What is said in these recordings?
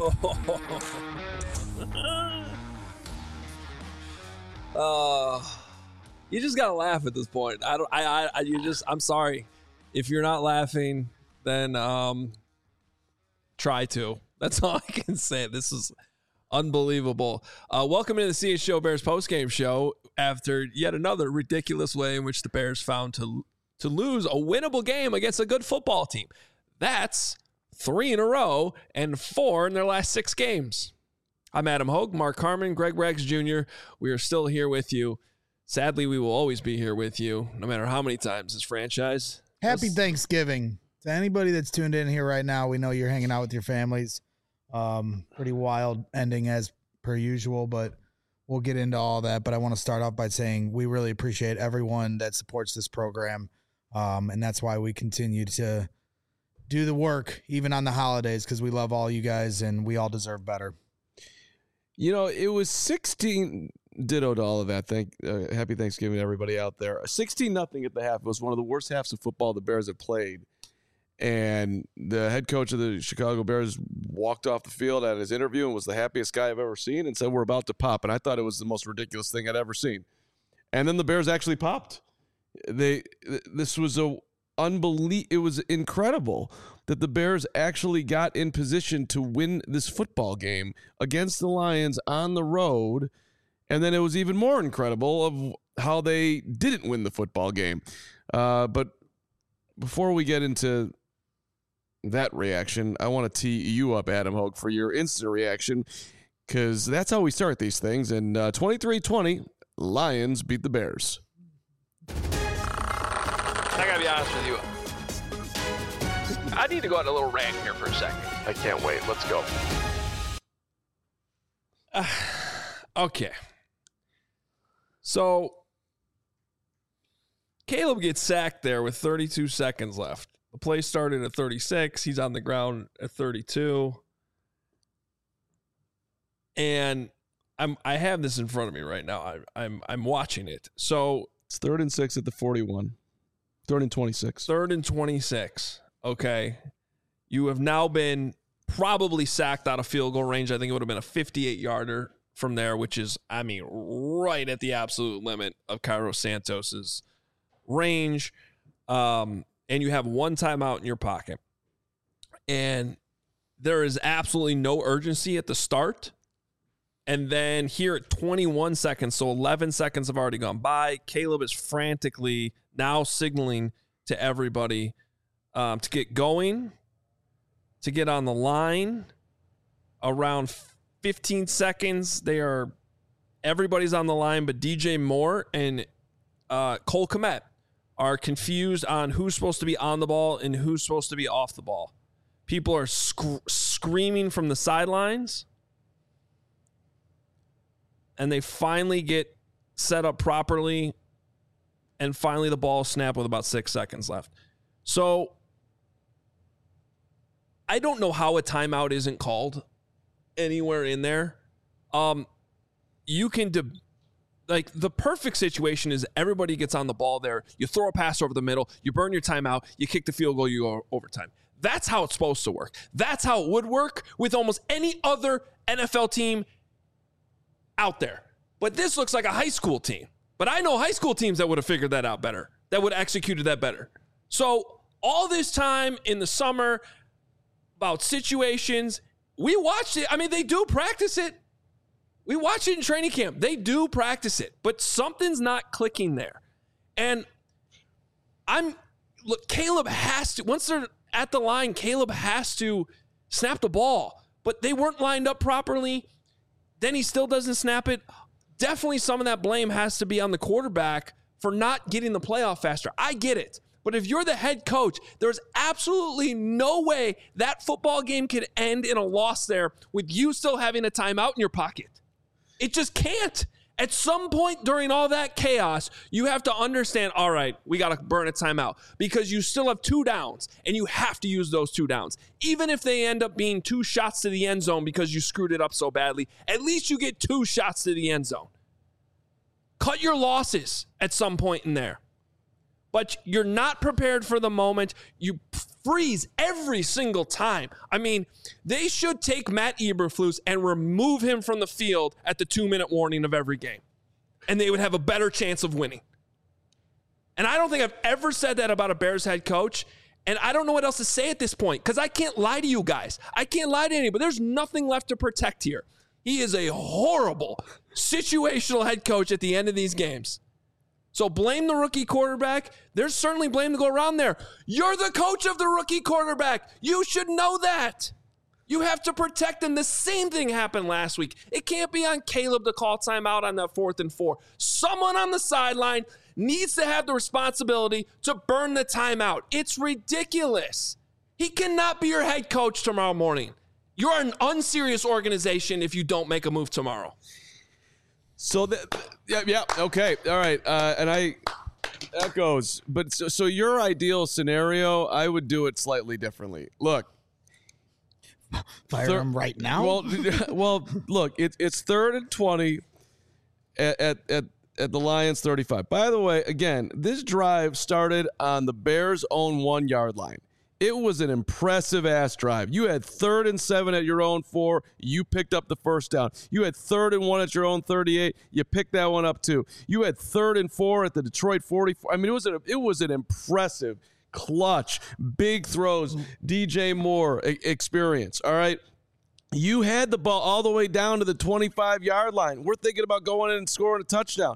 You just gotta laugh at this point. I'm sorry. If you're not laughing, then try to. That's all I can say. This is unbelievable. Welcome to the CHGO Bears postgame show after yet another ridiculous way in which the Bears found to lose a winnable game against a good football team. That's 3 in a row and 4 in their last 6 games. I'm Adam Hogue, Mark Harmon, Greg Braggs Jr. We are still here with you. Sadly, we will always be here with you, no matter how many times this franchise. Happy Thanksgiving to anybody that's tuned in here right now. We know you're hanging out with your families. Pretty wild ending as per usual, but we'll get into all that. But I want to start off by saying we really appreciate everyone that supports this program. And that's why we continue to do the work, even on the holidays, because we love all you guys and we all deserve better. You know, it was 16 ditto to all of that. Happy Thanksgiving to everybody out there. 16-0 at the half. It was one of the worst halves of football the Bears have played. And the head coach of the Chicago Bears walked off the field at his interview and was the happiest guy I've ever seen and said, we're about to pop. And I thought it was the most ridiculous thing I'd ever seen. And then the Bears actually popped. This was it was incredible that the Bears actually got in position to win this football game against the Lions on the road. And then it was even more incredible of how they didn't win the football game. But before we get into that reaction, I want to tee you up, Adam Hogue, for your instant reaction, because that's how we start these things. And 23-20, Lions beat the Bears. I gotta be honest with you. I need to go on a little rant here for a second. I can't wait. Let's go. Okay. So, Caleb gets sacked there with 32 seconds left. The play started at 36. He's on the ground at 32. And I have this in front of me right now. I'm watching it. So it's 3rd and 6 at the 41. 3rd and 26. 3rd and 26. Okay. You have now been probably sacked out of field goal range. I think it would have been a 58-yarder from there, which is, right at the absolute limit of Cairo Santos's range. And you have one timeout in your pocket. And there is absolutely no urgency at the start. And then here at 21 seconds, so 11 seconds have already gone by, Caleb is frantically now signaling to everybody to get going, to get on the line. Around 15 seconds, everybody's on the line, but DJ Moore and Cole Kmet are confused on who's supposed to be on the ball and who's supposed to be off the ball. People are screaming from the sidelines. And they finally get set up properly. And finally the ball snapped with about 6 seconds left. So I don't know how a timeout isn't called anywhere in there. You can the perfect situation is everybody gets on the ball there. You throw a pass over the middle. You burn your timeout. You kick the field goal. You go overtime. That's how it's supposed to work. That's how it would work with almost any other NFL team out there. But this looks like a high school team. But I know high school teams that would have figured that out better, that would have executed that better. So all this time in the summer about situations, we watched it. They do practice it. We watch it in training camp. They do practice it, but something's not clicking there. And Caleb has to, once they're at the line, Caleb has to snap the ball, but they weren't lined up properly. Then he still doesn't snap it. Definitely some of that blame has to be on the quarterback for not getting the playoff faster. I get it. But if you're the head coach, there's absolutely no way that football game could end in a loss there with you still having a timeout in your pocket. It just can't. At some point during all that chaos, you have to understand, all right, we got to burn a timeout because you still have 2 downs and you have to use those 2 downs. Even if they end up being 2 shots to the end zone because you screwed it up so badly, at least you get 2 shots to the end zone. Cut your losses at some point in there. but you're not prepared for the moment. You freeze every single time. I mean, they should take Matt Eberflus and remove him from the field at the 2-minute warning of every game, and they would have a better chance of winning. And I don't think I've ever said that about a Bears head coach, and I don't know what else to say at this point because I can't lie to you guys. I can't lie to anybody. There's nothing left to protect here. He is a horrible situational head coach at the end of these games. So blame the rookie quarterback. There's certainly blame to go around there. You're the coach of the rookie quarterback. You should know that. You have to protect him. The same thing happened last week. It can't be on Caleb to call timeout on that 4th and 4. Someone on the sideline needs to have the responsibility to burn the timeout. It's ridiculous. He cannot be your head coach tomorrow morning. You're an unserious organization if you don't make a move tomorrow. So, okay, all right, that goes. But so your ideal scenario, I would do it slightly differently. Look, fire him right now. Well, look, it's 3rd and 20 at the Lions 35. By the way, again, this drive started on the Bears' own 1-yard line. It was an impressive-ass drive. You had 3rd and 7 at your own 4. You picked up the first down. You had 3rd and 1 at your own 38. You picked that one up, too. You had 3rd and 4 at the Detroit 44. I mean, it was an impressive, clutch, big throws, DJ Moore experience, all right? You had the ball all the way down to the 25-yard line. We're thinking about going in and scoring a touchdown.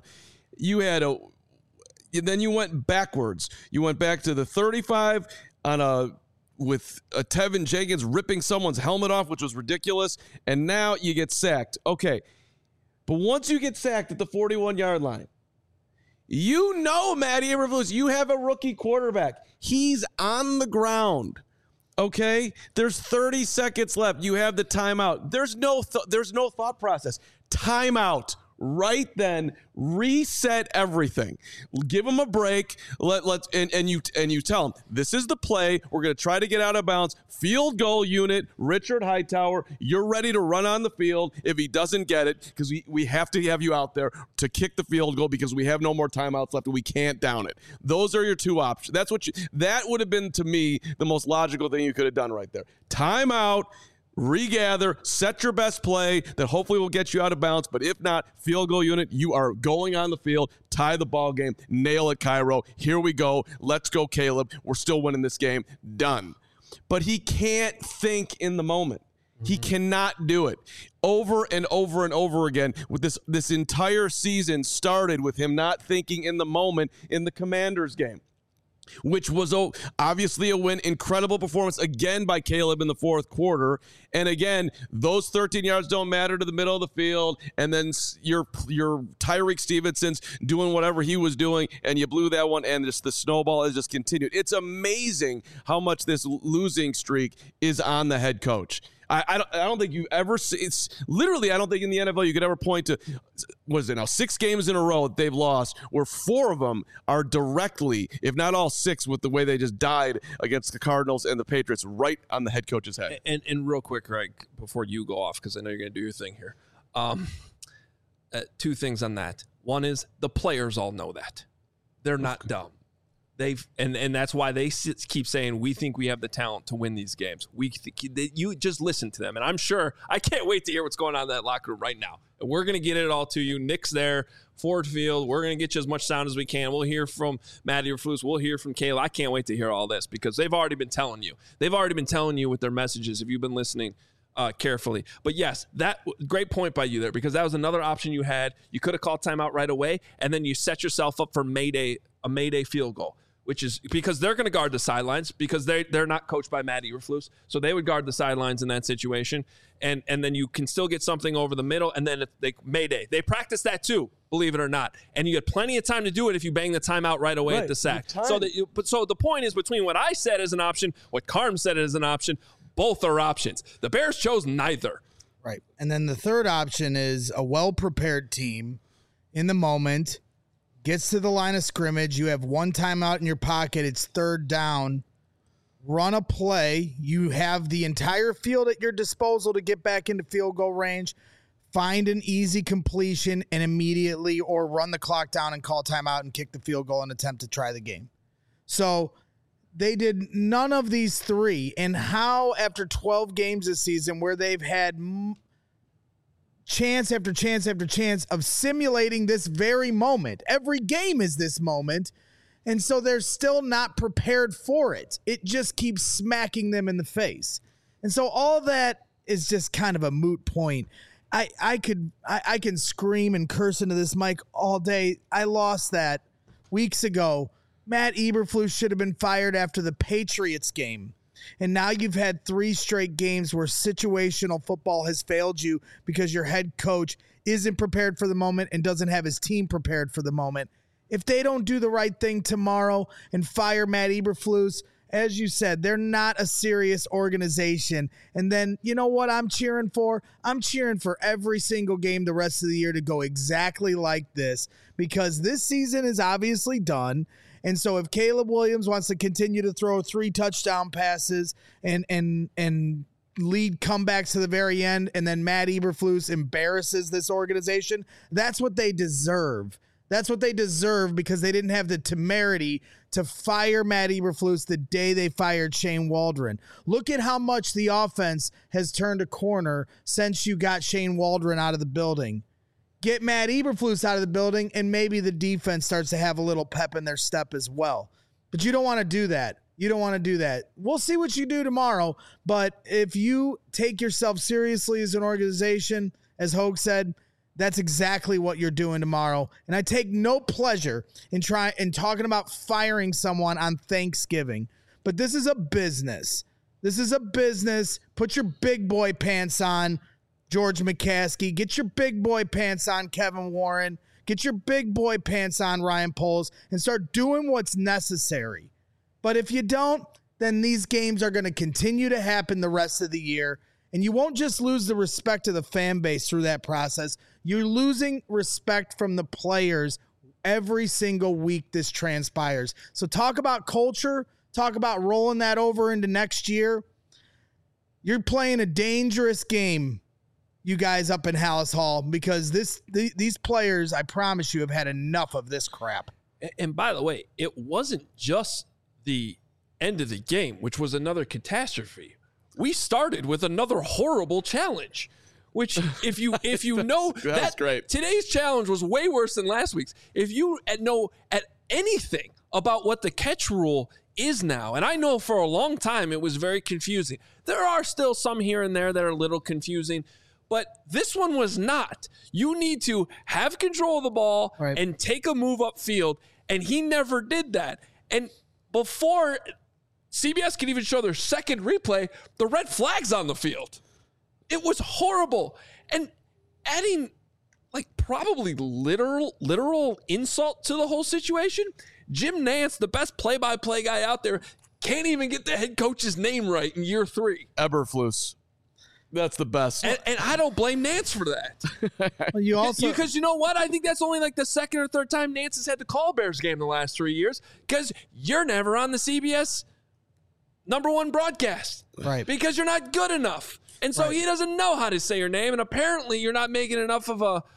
Then you went backwards. You went back to the 35 with Tevin Jenkins ripping someone's helmet off, which was ridiculous, and now you get sacked. Okay, but once you get sacked at the 41-yard line, you know, Matty Eberflus, you have a rookie quarterback. He's on the ground. Okay, there's 30 seconds left. You have the timeout. There's no thought process. Timeout. Right then, reset everything. Give him a break. And you tell him this is the play. We're going to try to get out of bounds. Field goal unit, Richard Hightower. You're ready to run on the field if he doesn't get it because we have to have you out there to kick the field goal because we have no more timeouts left and we can't down it. Those are your two options. That would have been to me the most logical thing you could have done right there. Timeout. Regather, set your best play that hopefully will get you out of bounds. But if not, field goal unit, you are going on the field, tie the ball game, nail it, Cairo. Here we go. Let's go, Caleb. We're still winning this game. Done. But he can't think in the moment. He cannot do it. Over and over and over again. With this entire season started with him not thinking in the moment in the Commanders game, which was obviously a win. Incredible performance again by Caleb in the 4th quarter. And again, those 13 yards don't matter to the middle of the field. And then your Tyreek Stevenson's doing whatever he was doing, and you blew that one, and the snowball has just continued. It's amazing how much this losing streak is on the head coach. I don't think you ever see, it's literally, I don't think in the NFL you could ever point to, what is it now, 6 games in a row that they've lost where 4 of them are directly, if not all 6, with the way they just died against the Cardinals and the Patriots right on the head coach's head. And real quick, Greg, before you go off, because I know you're going to do your thing here. 2 things on that. One is the players all know that. They're not dumb. And that's why they keep saying we think we have the talent to win these games. You just listen to them, and I'm sure I can't wait to hear what's going on in that locker room right now. And we're going to get it all to you. Nick's there, Ford Field. We're going to get you as much sound as we can. We'll hear from Matty Eberflus. We'll hear from Kayla. I can't wait to hear all this because they've already been telling you. They've already been telling you with their messages if you've been listening carefully. But yes, that great point by you there because that was another option you had. You could have called timeout right away, and then you set yourself up for a Mayday field goal. Which is because they're going to guard the sidelines because they're not coached by Matt Eberflus. So they would guard the sidelines in that situation. And then you can still get something over the middle. And then Mayday. They practice that too, believe it or not. And you get plenty of time to do it if you bang the timeout right away at the sack. So the point is between what I said as an option, what Carm said as an option, both are options. The Bears chose neither. Right. And then the third option is a well-prepared team in the moment. Gets to the line of scrimmage. You have 1 timeout in your pocket. It's 3rd down. Run a play. You have the entire field at your disposal to get back into field goal range. Find an easy completion and immediately or run the clock down and call timeout and kick the field goal and attempt to try the game. So they did none of these three. And how, after 12 games this season, where they've had chance after chance after chance of simulating this very moment, every game is this moment, and so they're still not prepared for it. It just keeps smacking them in the face. And so all that is just kind of a moot point. I can scream and curse into this mic all day. I lost that weeks ago. Matt Eberflus should have been fired after the Patriots game. And now you've had 3 straight games where situational football has failed you because your head coach isn't prepared for the moment and doesn't have his team prepared for the moment. If they don't do the right thing tomorrow and fire Matt Eberflus, as you said, they're not a serious organization. And then, you know what I'm cheering for? I'm cheering for every single game the rest of the year to go exactly like this, because this season is obviously done. And so if Caleb Williams wants to continue to throw 3 touchdown passes and lead comebacks to the very end, and then Matt Eberflus embarrasses this organization, that's what they deserve. That's what they deserve, because they didn't have the temerity to fire Matt Eberflus the day they fired Shane Waldron. Look at how much the offense has turned a corner since you got Shane Waldron out of the building. Get Matt Eberflus out of the building, and maybe the defense starts to have a little pep in their step as well. But you don't want to do that. You don't want to do that. We'll see what you do tomorrow, but if you take yourself seriously as an organization, as Hogue said, that's exactly what you're doing tomorrow. And I take no pleasure in talking about firing someone on Thanksgiving. But this is a business. This is a business. Put your big boy pants on, George McCaskey. Get your big boy pants on, Kevin Warren. Get your big boy pants on, Ryan Poles, and start doing what's necessary. But if you don't, then these games are going to continue to happen the rest of the year. And you won't just lose the respect of the fan base through that process. You're losing respect from the players every single week this transpires. So talk about culture. Talk about rolling that over into next year. You're playing a dangerous game, you guys up in Hallis Hall, because these players, I promise you, have had enough of this crap. And by the way, it wasn't just the end of the game, which was another catastrophe. We started with another horrible challenge, which if you know that's great. Today's challenge was way worse than last week's. If you know at anything about what the catch rule is now, and I know for a long time it was very confusing. There are still some here and there that are a little confusing, but this one was not. You need to have control of the ball and take a move upfield, and he never did that. And before CBS can even show their second replay, the red flag's on the field. It was horrible. And adding probably literal insult to the whole situation, Jim Nantz, the best play-by-play guy out there, can't even get the head coach's name right in year 3. Eberflus. That's the best. And I don't blame Nantz for that. Well, you also, because you know what? I think that's only the second or third time Nantz has had to call a Bears game the last 3 years, because you're never on the CBS #1 broadcast. Right. Because you're not good enough. And so he doesn't know how to say your name, and apparently you're not making enough of a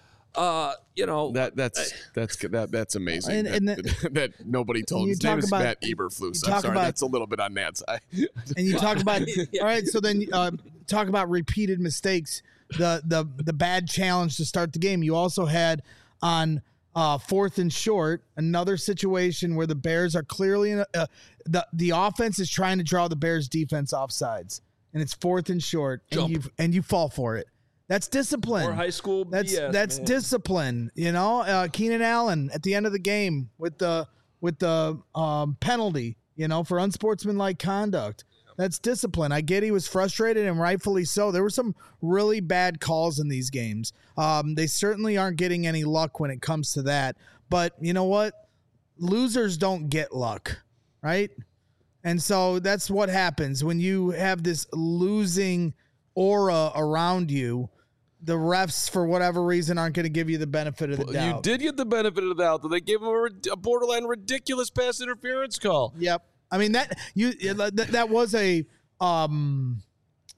that's amazing. And that nobody told. His name is Matt Eberflus. I'm sorry, that's a little bit on Nantz. And you talk about all right. So then talk about repeated mistakes. The bad challenge to start the game. You also had on 4th and short, another situation where the Bears are clearly in the offense is trying to draw the Bears defense off sides, and it's 4th and short, and you fall for it. That's discipline. Or high school BS, that's discipline. You know, Keenan Allen at the end of the game with the penalty, for unsportsmanlike conduct. That's discipline. I get he was frustrated, and rightfully so. There were some really bad calls in these games. They certainly aren't getting any luck when it comes to that. But you know what? Losers don't get luck, right? And so that's what happens when you have this losing aura around you. The refs, for whatever reason, aren't going to give you the benefit of the doubt. You did get the benefit of the doubt. They gave him a borderline ridiculous pass interference call. Yep. I mean, that was a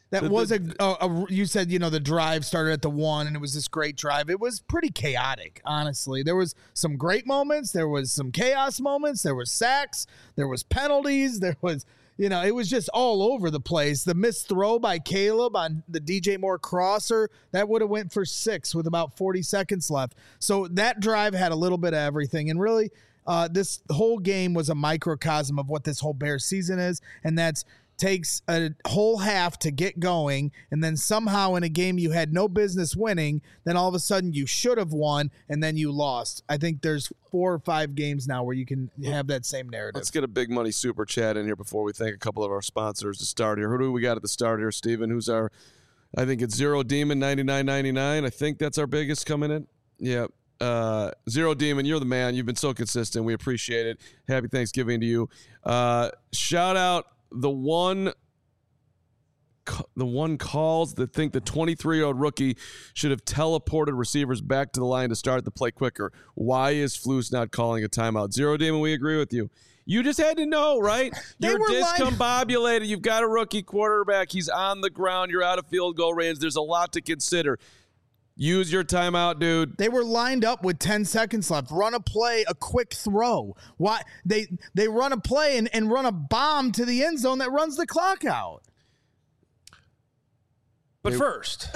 That was you said, the drive started at the 1 and it was this great drive. It was pretty chaotic, honestly. There was some great moments. There was some chaos moments. There was sacks. There was penalties. There was, it was just all over the place. The missed throw by Caleb on the DJ Moore crosser, that would have went for 6 with about 40 seconds left. So that drive had a little bit of everything. And really, this whole game was a microcosm of what this whole Bears season is, and that's takes a whole half to get going, and then somehow in a game you had no business winning, then all of a sudden you should have won, and then you lost. I think there's 4 or 5 games now where you can have that same narrative. Let's get a big money super chat in here before we thank a couple of our sponsors to start here. Who do we got at the start here, Steven? Who's our, I think it's Zero Demon 99.99. I think that's our biggest coming in. Yeah. Zero Demon, you're the man. You've been so consistent. We appreciate it. Happy Thanksgiving to you. Shout out the one calls that think the 23-year-old rookie should have teleported receivers back to the line to start the play quicker. Why is Flus not calling a timeout? Zero Demon, we agree with you. You just had to know, right? You're discombobulated. You've got a rookie quarterback. He's on the ground. You're out of field goal range. There's a lot to consider. Use your timeout, dude. They were lined up with 10 seconds left. Run a play, a quick throw. Why they run a play and run a bomb to the end zone that runs the clock out. But first,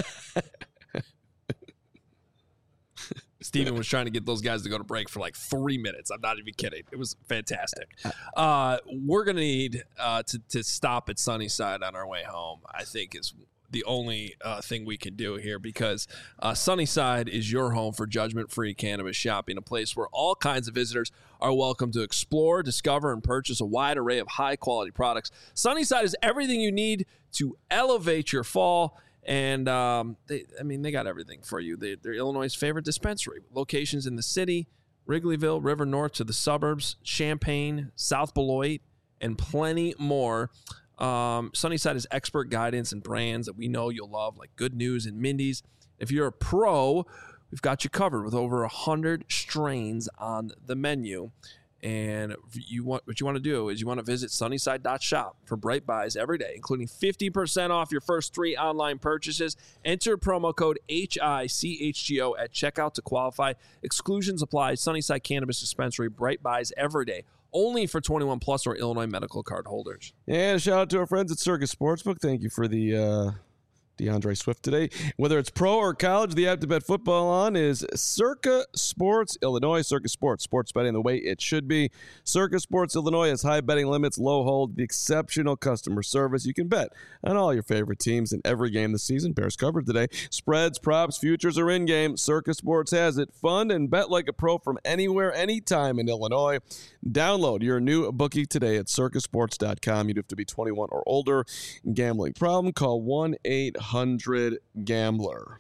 Steven was trying to get those guys to go to break for like 3 minutes. I'm not even kidding. It was fantastic. We're going to need to stop at Sunnyside on our way home, I think is the only thing we can do here, because Sunnyside is your home for judgment-free cannabis shopping, a place where all kinds of visitors are welcome to explore, discover, and purchase a wide array of high-quality products. Sunnyside is everything you need to elevate your fall, and they got everything for you. They're Illinois' favorite dispensary. Locations in the city, Wrigleyville, River North to the suburbs, Champaign, South Beloit, and plenty more. Sunnyside is expert guidance and brands that we know you'll love, like Good News and Mindy's. If you're a pro, we've got you covered with over 100 strains on the menu. And what you want to do is you want to visit sunnyside.shop for bright buys every day, including 50% off your first 3 online purchases. Enter promo code HICHGO at checkout to qualify. Exclusions apply. Sunnyside Cannabis Dispensary, bright buys every day. Only for 21 plus or Illinois medical card holders. And a shout out to our friends at Circus Sportsbook. Thank you for the DeAndre Swift today. Whether it's pro or college, the app to bet football on is Circa Sports Illinois. Circa Sports, sports betting the way it should be. Circa Sports Illinois has high betting limits, low hold, the exceptional customer service. You can bet on all your favorite teams in every game this season. Bears covered today. Spreads, props, futures are in game. Circa Sports has it. Fun and bet like a pro from anywhere, anytime in Illinois. Download your new bookie today at circasports.com. You do have to be 21 or older. Gambling problem? Call 1-800-GAMBLER.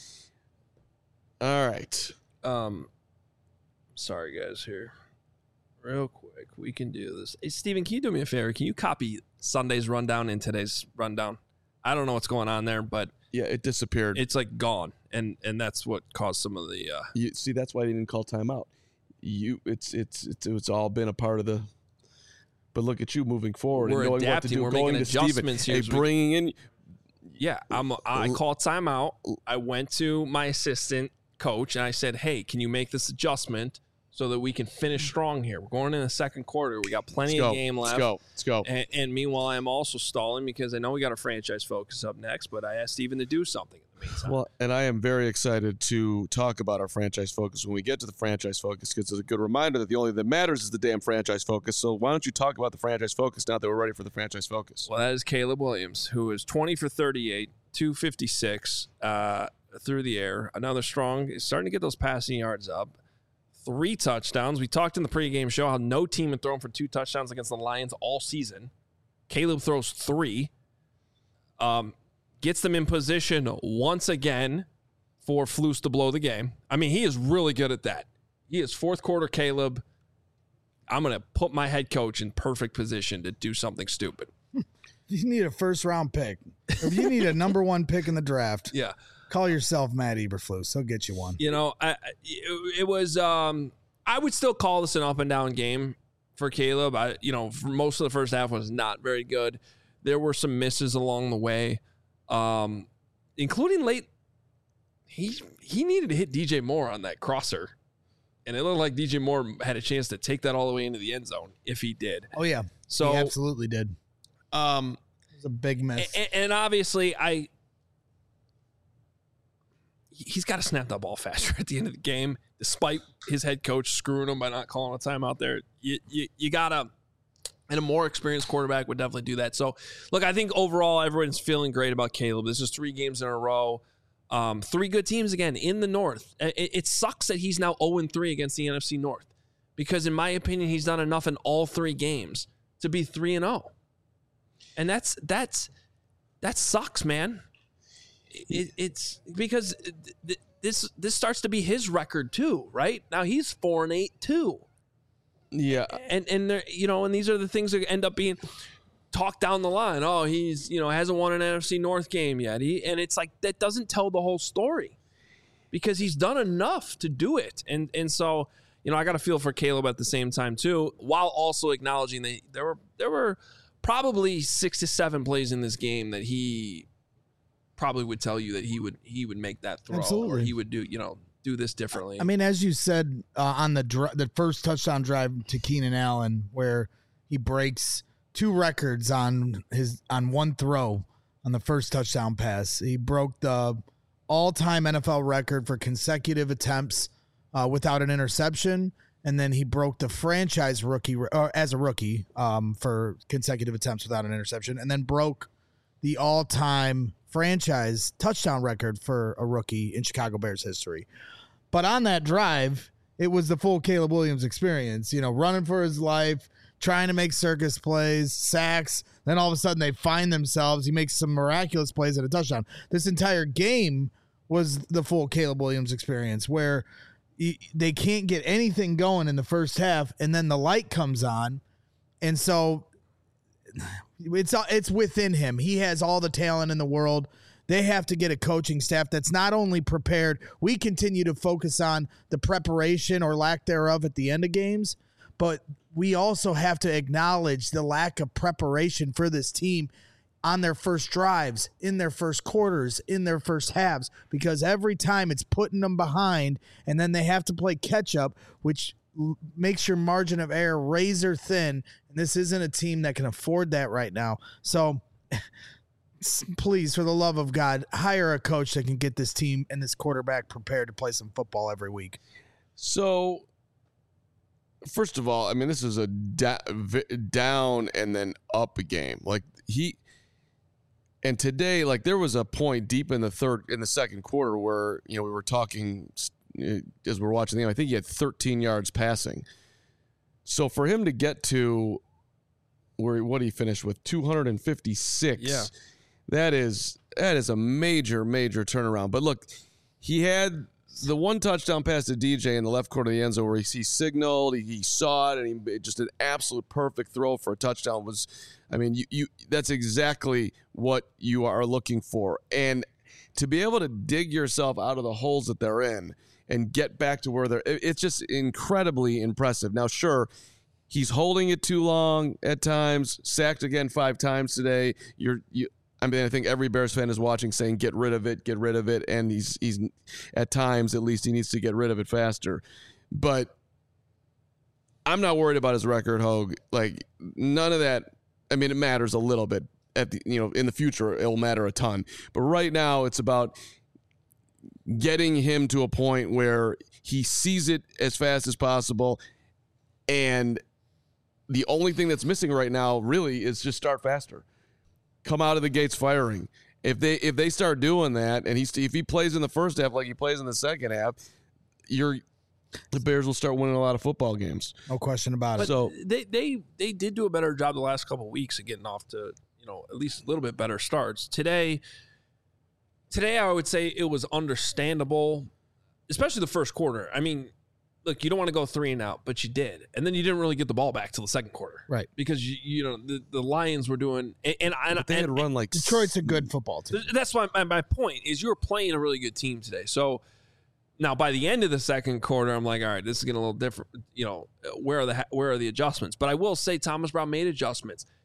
All right. Sorry, guys, here. Real quick, we can do this. Hey, Steven, can you do me a favor? Can you copy Sunday's rundown in today's rundown? I don't know what's going on there, but yeah, it disappeared. It's like gone, and that's what caused some of the. You see, that's why they didn't call timeout. It's all been a part of the. But look at you moving forward. We're and knowing adapting. What to do, We're going making to adjustments Steven, here. bringing in. Yeah, I called timeout. I went to my assistant coach and I said, "Hey, can you make this adjustment so that we can finish strong here? We're going in the second quarter. We got plenty of game left. Let's go. And meanwhile, I'm also stalling because I know we got a franchise focus up next, but I asked Steven to do something in the meantime. Well, and I am very excited to talk about our franchise focus when we get to the franchise focus, because it's a good reminder that the only thing that matters is the damn franchise focus. So why don't you talk about the franchise focus now that we're ready for the franchise focus? Well, that is Caleb Williams, who is 20 for 38, 256 through the air. Another strong, starting to get those passing yards up. 3 touchdowns. We talked in the pregame show how no team had thrown for 2 touchdowns against the Lions all season. Caleb throws 3. Gets them in position once again for Flus to blow the game. I mean, he is really good at that. He is fourth quarter Caleb. I'm going to put my head coach in perfect position to do something stupid. You need a first-round pick. Or if you need a number 1 pick in the draft, Yeah. call yourself Matt Eberflus. He'll get you one. You know, it was I would still call this an up and down game for Caleb. For most of the first half was not very good. There were some misses along the way, including late. He needed to hit DJ Moore on that crosser, and it looked like DJ Moore had a chance to take that all the way into the end zone if he did. Oh yeah, so he absolutely did. It was a big miss, and obviously he's got to snap that ball faster at the end of the game, despite his head coach screwing him by not calling a timeout there. You gotta. And a more experienced quarterback would definitely do that. So, look, I think overall everyone's feeling great about Caleb. This is 3 games in a row. 3 good teams again in the North. It sucks that he's now 0-3 against the NFC North because, in my opinion, he's done enough in all 3 games to be 3-0. And that sucks, man. It's because this starts to be his record too, right? Now he's 4-8 too. Yeah, and there, and these are the things that end up being talked down the line. Oh, he's hasn't won an NFC North game yet. And it's like that doesn't tell the whole story because he's done enough to do it. And so I got to feel for Caleb at the same time too, while also acknowledging that there were probably 6 to 7 plays in this game that he probably would tell you that he would make that throw. Absolutely. Or he would do this differently. I mean, as you said on the first touchdown drive to Keenan Allen, where he breaks 2 records on one throw on the first touchdown pass. He broke the all-time NFL record for consecutive attempts without an interception, and then he broke the franchise rookie as a rookie for consecutive attempts without an interception, and then broke the all-time franchise touchdown record for a rookie in Chicago Bears history. But on that drive, it was the full Caleb Williams experience, running for his life, trying to make circus plays, sacks. Then all of a sudden they find themselves. He makes some miraculous plays at a touchdown. This entire game was the full Caleb Williams experience where they can't get anything going in the first half, and then the light comes on. And so it's within him. He has all the talent in the world. They have to get a coaching staff that's not only prepared. We continue to focus on the preparation or lack thereof at the end of games, but we also have to acknowledge the lack of preparation for this team on their first drives, in their first quarters, in their first halves, because every time it's putting them behind, and then they have to play catch up, which makes your margin of error razor thin. And this isn't a team that can afford that right now. So please, for the love of God, hire a coach that can get this team and this quarterback prepared to play some football every week. So, first of all, I mean, this is a down and then up game. And today, there was a point deep in the second quarter where, we were talking as we're watching the game. I think he had 13 yards passing. So for him to get to what he finished with 256, yeah, that is a major, major turnaround. But look, he had the one touchdown pass to DJ in the left corner of the end zone where he signaled, he saw it, and he just an absolute perfect throw for a touchdown. That's exactly what you are looking for. And to be able to dig yourself out of the holes that they're in and get back to where it's just incredibly impressive. Now, sure, he's holding it too long at times, sacked again 5 times today. I think every Bears fan is watching saying, get rid of it. And he's at times, at least, he needs to get rid of it faster. But I'm not worried about his record, Hogue. None of that. I mean, it matters a little bit in the future. It'll matter a ton. But right now it's about getting him to a point where he sees it as fast as possible. And the only thing that's missing right now really is just start faster. Come out of the gates firing. If they start doing that, and if he plays in the first half like he plays in the second half, the Bears will start winning a lot of football games. No question about it. So they did do a better job the last couple of weeks of getting off to at least a little bit better starts. Today I would say it was understandable, especially the first quarter. I mean, look, you don't want to go 3 and out, but you did. And then you didn't really get the ball back till the second quarter. Right. Because, the Lions were doing – but they had run Detroit's a good football team. That's why my point is you're playing a really good team today. So, now by the end of the second quarter, I'm like, all right, this is getting a little different. Where are the adjustments? But I will say Thomas Brown made adjustments.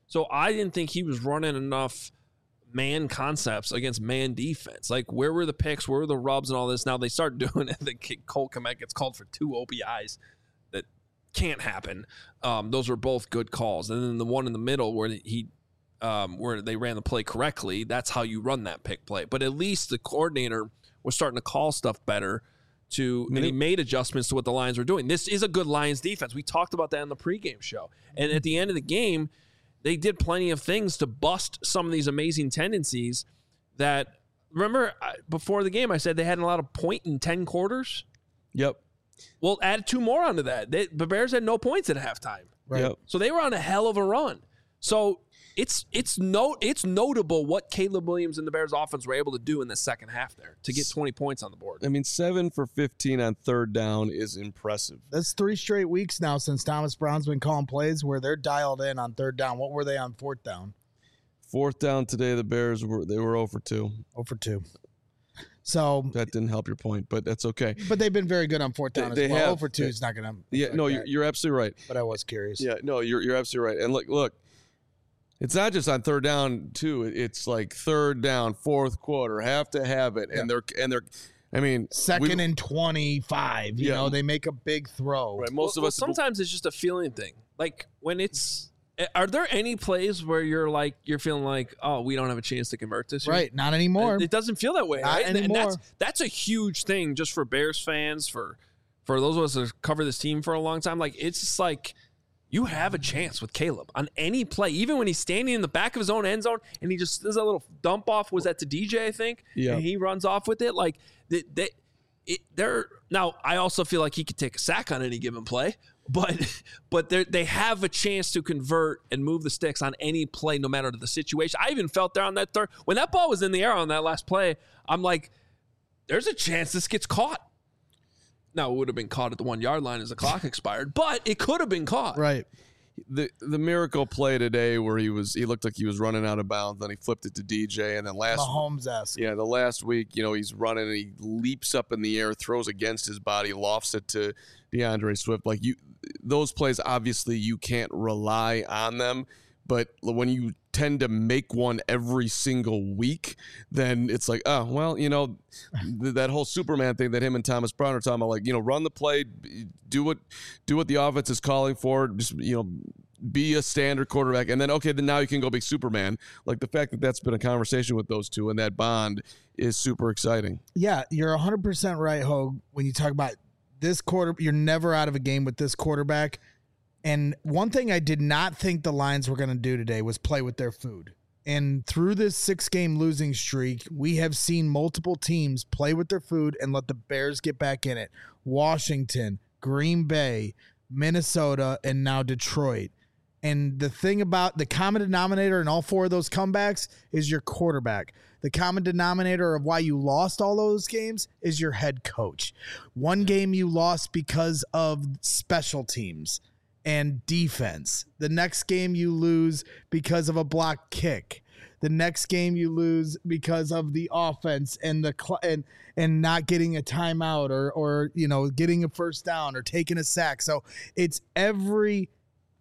So I didn't think he was running enough man concepts against man defense. Like, where were the picks? Where were the rubs and all this? Now they start doing it. Cole Kmet gets called for 2 OPIs. That can't happen. Those were both good calls. And then the one in the middle where where they ran the play correctly, that's how you run that pick play. But at least the coordinator was starting to call stuff better and he made adjustments to what the Lions were doing. This is a good Lions defense. We talked about that in the pregame show. And at the end of the game, they did plenty of things to bust some of these amazing tendencies that, remember, before the game, I said they hadn't allowed a point in 10 quarters? Yep. Well, add 2 more onto that. The Bears had no points at halftime. Right. Yep. So they were on a hell of a run. So it's notable what Caleb Williams and the Bears offense were able to do in the second half there to get 20 points on the board. I mean, 7 for 15 on third down is impressive. That's 3 straight weeks now since Thomas Brown's been calling plays where they're dialed in on third down. What were they on fourth down? Fourth down today, the Bears were 0 for 2. 0 for 2. So that didn't help your point, but that's okay. But they've been very good on fourth down they as well. have. 0 for 2 is not going to. Yeah, no, you're absolutely right. But I was curious. Yeah, no, you're absolutely right. And look, it's not just on third down too. It's like third down, fourth quarter, have to have it, and they're. I mean, second and 25. You know, they make a big throw. Right. Most of us. Sometimes it's just a feeling thing. Like when it's. Are there any plays where you're feeling like, oh, we don't have a chance to convert this? Right. Not anymore. It doesn't feel that way. Not right? anymore. And that's a huge thing just for Bears fans, for those of us that cover this team for a long time. Like, it's just like you have a chance with Caleb on any play, even when he's standing in the back of his own end zone and he just does a little dump off. Was that to DJ, I think? Yeah. And he runs off with it. Like, now, I also feel like he could take a sack on any given play. But they have a chance to convert and move the sticks on any play, no matter the situation. I even felt there on that third. When that ball was in the air on that last play, I'm like, there's a chance this gets caught. Now, it would have been caught at the 1 yard line as the clock expired, but it could have been caught. Right. The miracle play today where he looked like he was running out of bounds, then he flipped it to DJ, and then Mahomes-esque. Yeah, the last week, he's running and he leaps up in the air, throws against his body, lofts it to DeAndre Swift. Like, those plays, obviously you can't rely on them, but when you tend to make one every single week, then it's like, oh, well, that whole Superman thing that him and Thomas Brown are talking about, like, run the play, do what the offense is calling for, just, be a standard quarterback, and then, okay, then now you can go be Superman. Like, the fact that that's been a conversation with those two and that bond is super exciting. Yeah, you're 100% right, Hogue, when you talk about this quarter. You're never out of a game with this quarterback. And one thing I did not think the Lions were going to do today was play with their food. And through this 6-game losing streak, we have seen multiple teams play with their food and let the Bears get back in it. Washington, Green Bay, Minnesota, and now Detroit. And the thing about the common denominator in all 4 of those comebacks is your quarterback. The common denominator of why you lost all those games is your head coach. One game you lost because of special teams and defense. The next game you lose because of a block kick. The next game you lose because of the offense and and not getting a timeout or getting a first down or taking a sack. So it's every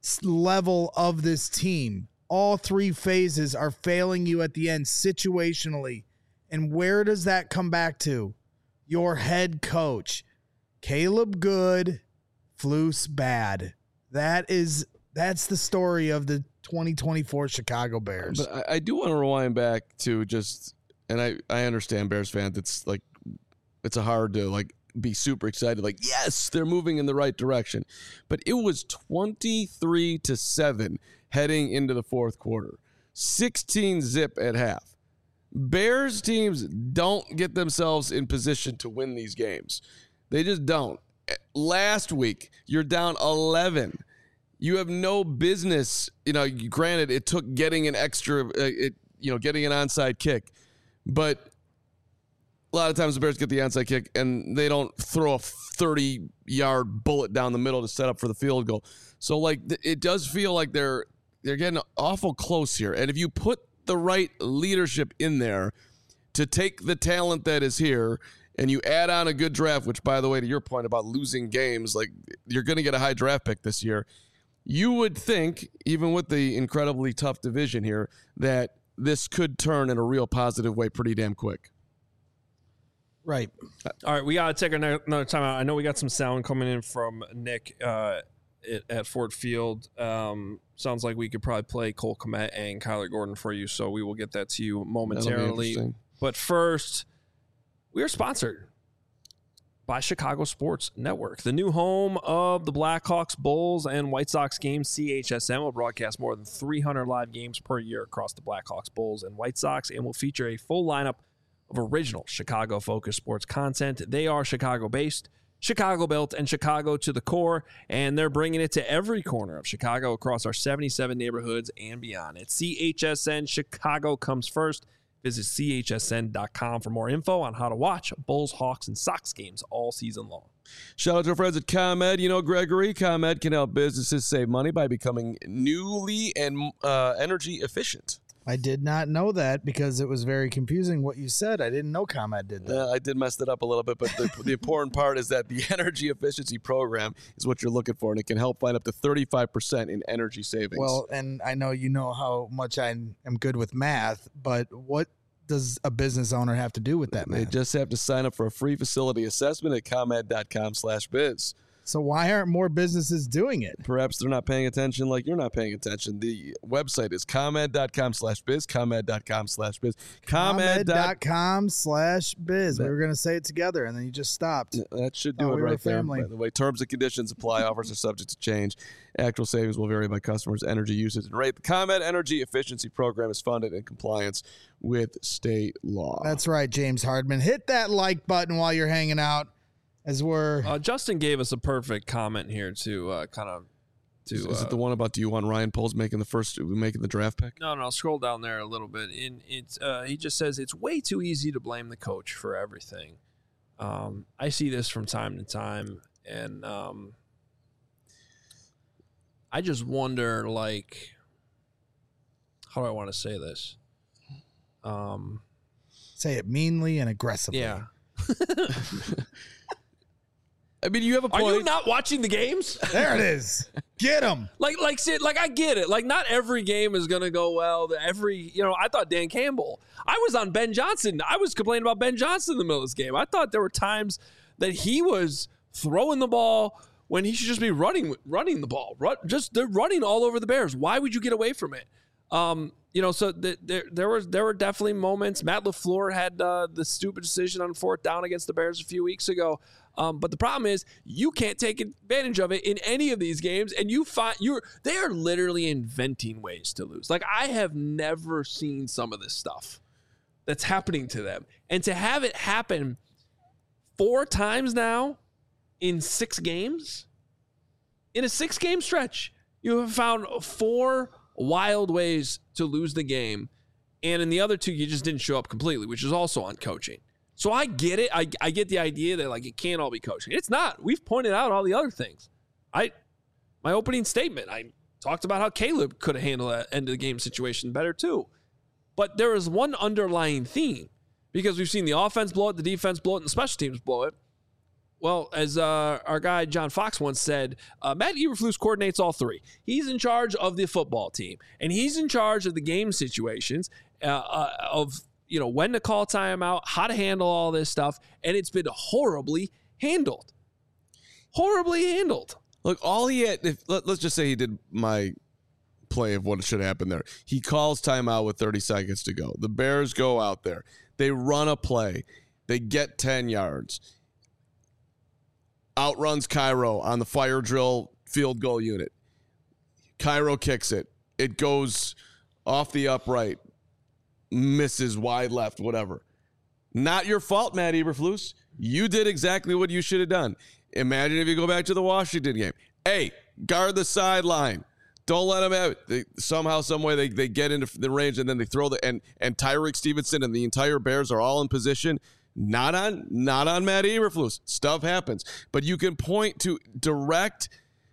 level of this team. All 3 phases are failing you at the end situationally. And where does that come back to? Your head coach. Caleb good, Flus bad. That's the story of the 2024 Chicago Bears. But I do want to rewind back to and I understand Bears fans, it's like, it's hard to be super excited. Like, yes, they're moving in the right direction. But it was 23-7 heading into the fourth quarter. 16-zip at half. Bears teams don't get themselves in position to win these games. They just don't. Last week, you're down 11. You have no business. Granted, it took getting an extra, getting an onside kick. But a lot of times the Bears get the onside kick and they don't throw a 30-yard bullet down the middle to set up for the field goal. So, it does feel like they're getting awful close here. And if you put the right leadership in there to take the talent that is here and you add on a good draft, which, by the way, to your point about losing games, you're going to get a high draft pick this year. you would think, even with the incredibly tough division here, that this could turn in a real positive way pretty damn quick. Right. All right, we got to take another time out. I know we got some sound coming in from Nick at Ford Field. Sounds like we could probably play Cole Kmet and Kyler Gordon for you, so we will get that to you momentarily. But first, we are sponsored by Chicago Sports Network, the new home of the Blackhawks, Bulls, and White Sox games. CHSN will broadcast more than 300 live games per year across the Blackhawks, Bulls, and White Sox, and will feature a full lineup of original Chicago-focused sports content. They are Chicago-based, Chicago-built, and Chicago to the core, and they're bringing it to every corner of Chicago across our 77 neighborhoods and beyond. At CHSN, Chicago comes first. Visit chsn.com for more info on how to watch Bulls, Hawks, and Sox games all season long. Shout out to our friends at ComEd. You know, Gregory, ComEd can help businesses save money by becoming newly and energy efficient. I did not know that because it was very confusing what you said. I didn't know ComEd did that. Yeah, I did mess that up a little bit, but the important part is that the energy efficiency program is what you're looking for, and it can help find up to 35% in energy savings. Well, and I know you know how much I am good with math, but what does a business owner have to do with that math? They just have to sign up for a free facility assessment at ComEd.com/biz. So why aren't more businesses doing it? Perhaps they're not paying attention like you're not paying attention. The website is ComEd.com/biz, ComEd.com/biz. ComEd.com/biz. We were going to say it together, and then you just stopped. That should do it right there. By the way, terms and conditions apply. Offers are subject to change. Actual savings will vary by customers' energy usage and rate. The ComEd Energy Efficiency Program is funded in compliance with state law. That's right, James Hardman. Hit that like button while you're hanging out. As we're Justin gave us a perfect comment here to Is it the one about do you want Ryan Poles making the draft pick? No, scroll down there a little bit. He just says it's way too easy to blame the coach for everything. I see this from time to time, and I just wonder, like, how do I want to say this? Say it meanly and aggressively. Yeah. I mean, you have a point. Are you not watching the games? There it is. Get him. Like I get it. Like, not every game is going to go well. I thought Dan Campbell. I was on Ben Johnson. I was complaining about Ben Johnson in the middle of this game. I thought there were times that he was throwing the ball when he should just be running the ball. They're running all over the Bears. Why would you get away from it? So there were definitely moments. Matt LaFleur had the stupid decision on 4th down against the Bears a few weeks ago. But the problem is you can't take advantage of it in any of these games, and they are literally inventing ways to lose. Like, I have never seen some of this stuff that's happening to them, and to have it happen 4 times now in 6 games, in a 6-game stretch, you have found 4 wild ways to lose the game, and in the other 2, you just didn't show up completely, which is also on coaching. So I get it. I get the idea that, like, it can't all be coaching. It's not. We've pointed out all the other things. My opening statement, I talked about how Caleb could have handled that end of the game situation better too. But there is one underlying theme, because we've seen the offense blow it, the defense blow it, and the special teams blow it. Well, as our guy John Fox once said, Matt Eberflus coordinates all 3. He's in charge of the football team, and he's in charge of the game situations of when to call timeout, how to handle all this stuff, and it's been horribly handled. Horribly handled. Look, all he had, let's just say he did my play of what should happen there. He calls timeout with 30 seconds to go. The Bears go out there. They run a play. They get 10 yards. Outruns Cairo on the fire drill field goal unit. Cairo kicks it. It goes off the upright. Misses wide left, whatever. Not your fault, Matt Eberflus. You did exactly what you should have done. Imagine if you go back to the Washington game. Hey, guard the sideline. Don't let them have it. Somehow, some way, they get into the range, and then they throw and Tyreek Stevenson and the entire Bears are all in position. Not on Matt Eberflus. Stuff happens. But you can point to direct,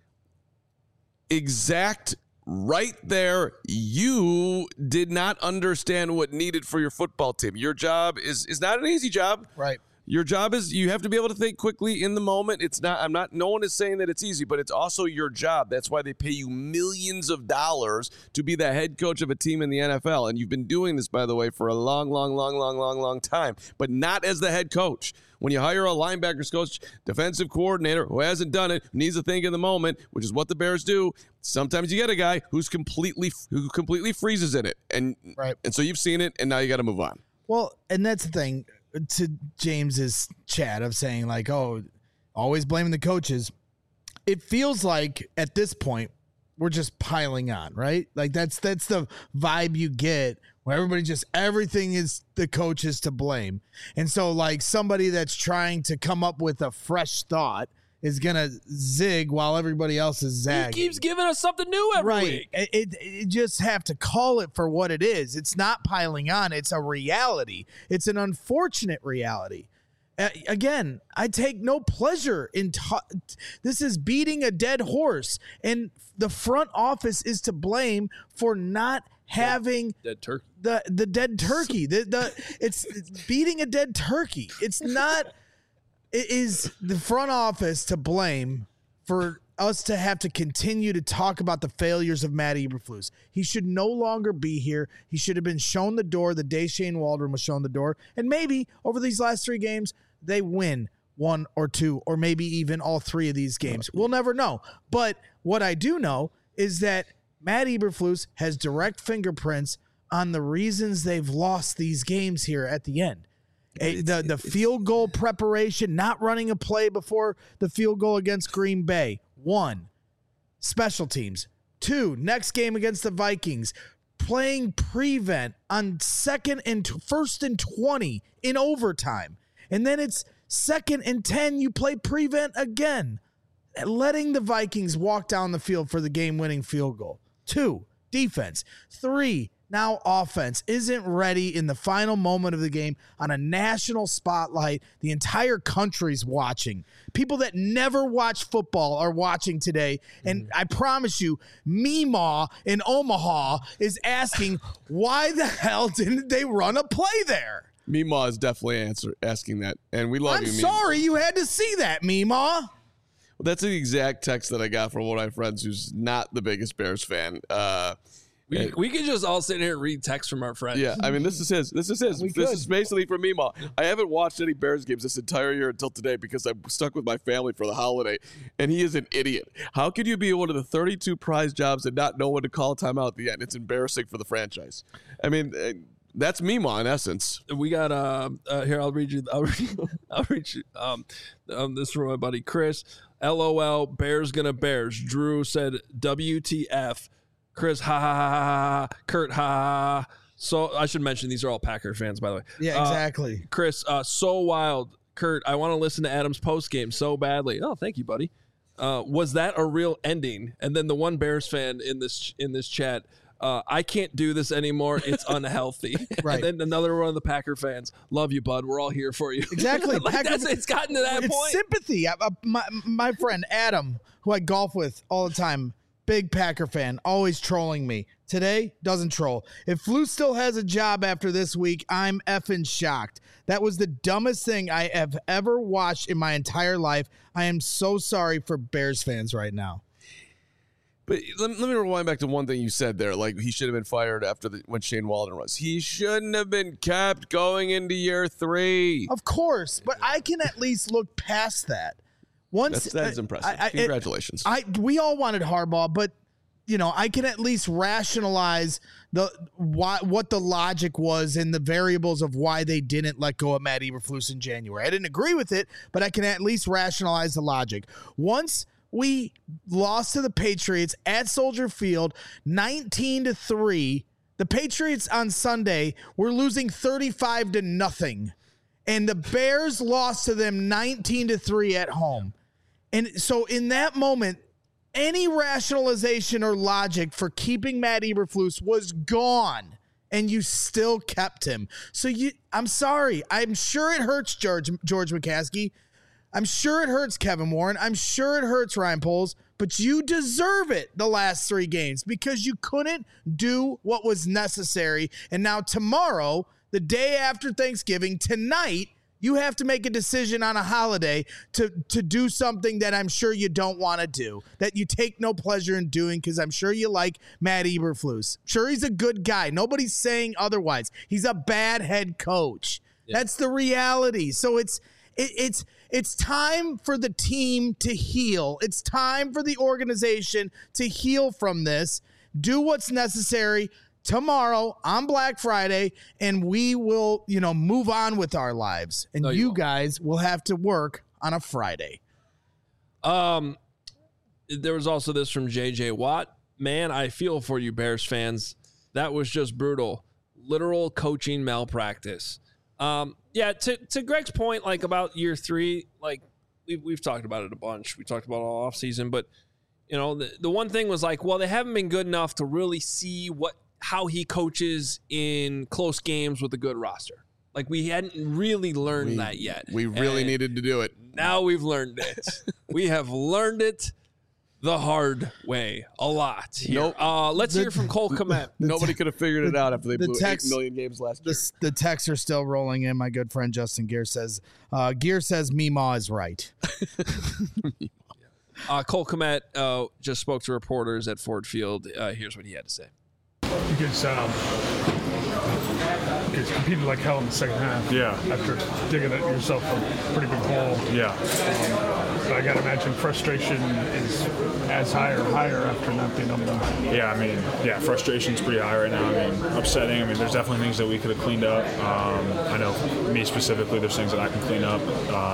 exact, right there, you did not understand what needed for your football team. Your job is not an easy job. Right. Your job is you have to be able to think quickly in the moment. No one is saying that it's easy, but it's also your job. That's why they pay you millions of dollars to be the head coach of a team in the NFL. And you've been doing this, by the way, for a long time, but not as the head coach. When you hire a linebackers coach, defensive coordinator who hasn't done it, needs to think in the moment, which is what the Bears do, sometimes you get a guy who completely freezes in it. And so you've seen it, and now you got to move on. Well, and that's the thing. To James's chat of saying like, oh, always blaming the coaches. It feels like at this point we're just piling on, right? Like that's the vibe you get where everything is the coaches to blame. And so like somebody that's trying to come up with a fresh thought is going to zig while everybody else is zagging. He keeps giving us something new every week. It just have to call it for what it is. It's not piling on. It's a reality. It's an unfortunate reality. Again, I take no pleasure in this is beating a dead horse, and the front office is to blame for not having dead turkey. The dead turkey. It's beating a dead turkey. It's not. It is the front office to blame for us to have to continue to talk about the failures of Matt Eberflus. He should no longer be here. He should have been shown the door the day Shane Waldron was shown the door. And maybe over these last 3 games, they win 1 or 2 or maybe even all 3 of these games. We'll never know. But what I do know is that Matt Eberflus has direct fingerprints on the reasons they've lost these games here at the end. The field goal preparation, not running a play before the field goal against Green Bay. 1, special teams. 2, next game against the Vikings, playing prevent on 1st and 20 in overtime. And then it's 2nd and 10, you play prevent again, letting the Vikings walk down the field for the game-winning field goal. 2, defense. 3, now offense isn't ready in the final moment of the game on a national spotlight. The entire country's watching. People that never watch football are watching today. And I promise you, Meemaw in Omaha is asking, why the hell didn't they run a play there? Meemaw is definitely asking that. And we love you, I'm sorry you had to see that, Meemaw. Well, that's the exact text that I got from one of my friends who's not the biggest Bears fan. We could just all sit here and read text from our friends. Yeah, I mean, this is his. This is basically from Meemaw. I haven't watched any Bears games this entire year until today because I'm stuck with my family for the holiday, and he is an idiot. How could you be one of the 32 prize jobs and not know when to call a timeout at the end? It's embarrassing for the franchise. I mean, that's Meemaw in essence. We got here. I'll read you. This from my buddy Chris. LOL. Bears gonna Bears. Drew said WTF. Chris, ha ha ha ha. Kurt, ha ha. So I should mention these are all Packer fans, by the way. Yeah, exactly. Chris, so wild. Kurt, I want to listen to Adam's post game so badly. Oh, thank you, buddy. Was that a real ending? And then the one Bears fan in this chat, I can't do this anymore. It's unhealthy. Right. And then another one of the Packer fans, love you, bud. We're all here for you. Exactly. It's gotten to that point. It's sympathy. My friend Adam, who I golf with all the time, big Packer fan, always trolling me. Today, doesn't troll. If Flus still has a job after this week, I'm effing shocked. That was the dumbest thing I have ever watched in my entire life. I am so sorry for Bears fans right now. But let me rewind back to one thing you said there. Like, he should have been fired when Shane Waldron was. He shouldn't have been kept going into year 3. Of course, but I can at least look past that. That is impressive. Congratulations. We all wanted Harbaugh, but I can at least rationalize what the logic was and the variables of why they didn't let go of Matt Eberflus in January. I didn't agree with it, but I can at least rationalize the logic. Once we lost to the Patriots at Soldier Field, 19-3, the Patriots on Sunday were losing 35-0, and the Bears lost to them 19-3 at home. And so in that moment, any rationalization or logic for keeping Matt Eberflus was gone, and you still kept him. So I'm sorry. I'm sure it hurts George McCaskey. I'm sure it hurts Kevin Warren. I'm sure it hurts Ryan Poles, but you deserve it the last 3 games because you couldn't do what was necessary. And now tomorrow, the day after Thanksgiving, tonight, You have to make a decision on a holiday to do something that I'm sure you don't want to do, that you take no pleasure in doing, because I'm sure you like Matt Eberflus. Sure, he's a good guy. Nobody's saying otherwise. He's a bad head coach. Yeah. That's the reality. So it's time for the team to heal. It's time for the organization to heal from this. Do what's necessary tomorrow on Black Friday, and we will, move on with our lives. And you guys will have to work on a Friday. There was also this from JJ Watt. Man, I feel for you, Bears fans. That was just brutal. Literal coaching malpractice. To Greg's point, like about year 3, like we've talked about it a bunch. We talked about it all off season, but the one thing was like, well, they haven't been good enough to really see how he coaches in close games with a good roster. Like we hadn't really learned that yet. We really needed to do it. Now we've learned it. We have learned it the hard way a lot here. Nope. Let's hear from Cole Kmet. Nobody could have figured it out after they blew 8 million games last year. The texts are still rolling in. My good friend Justin Gear says, Meemaw is right. Cole Kmet just spoke to reporters at Ford Field. Here's what he had to say. It's competed like hell in the second half. Yeah. After digging yourself a pretty big hole. Yeah. But I got to imagine frustration is as high or higher after not being able to. Yeah, frustration's pretty high right now. Upsetting. There's definitely things that we could have cleaned up. I know me specifically, there's things that I can clean up.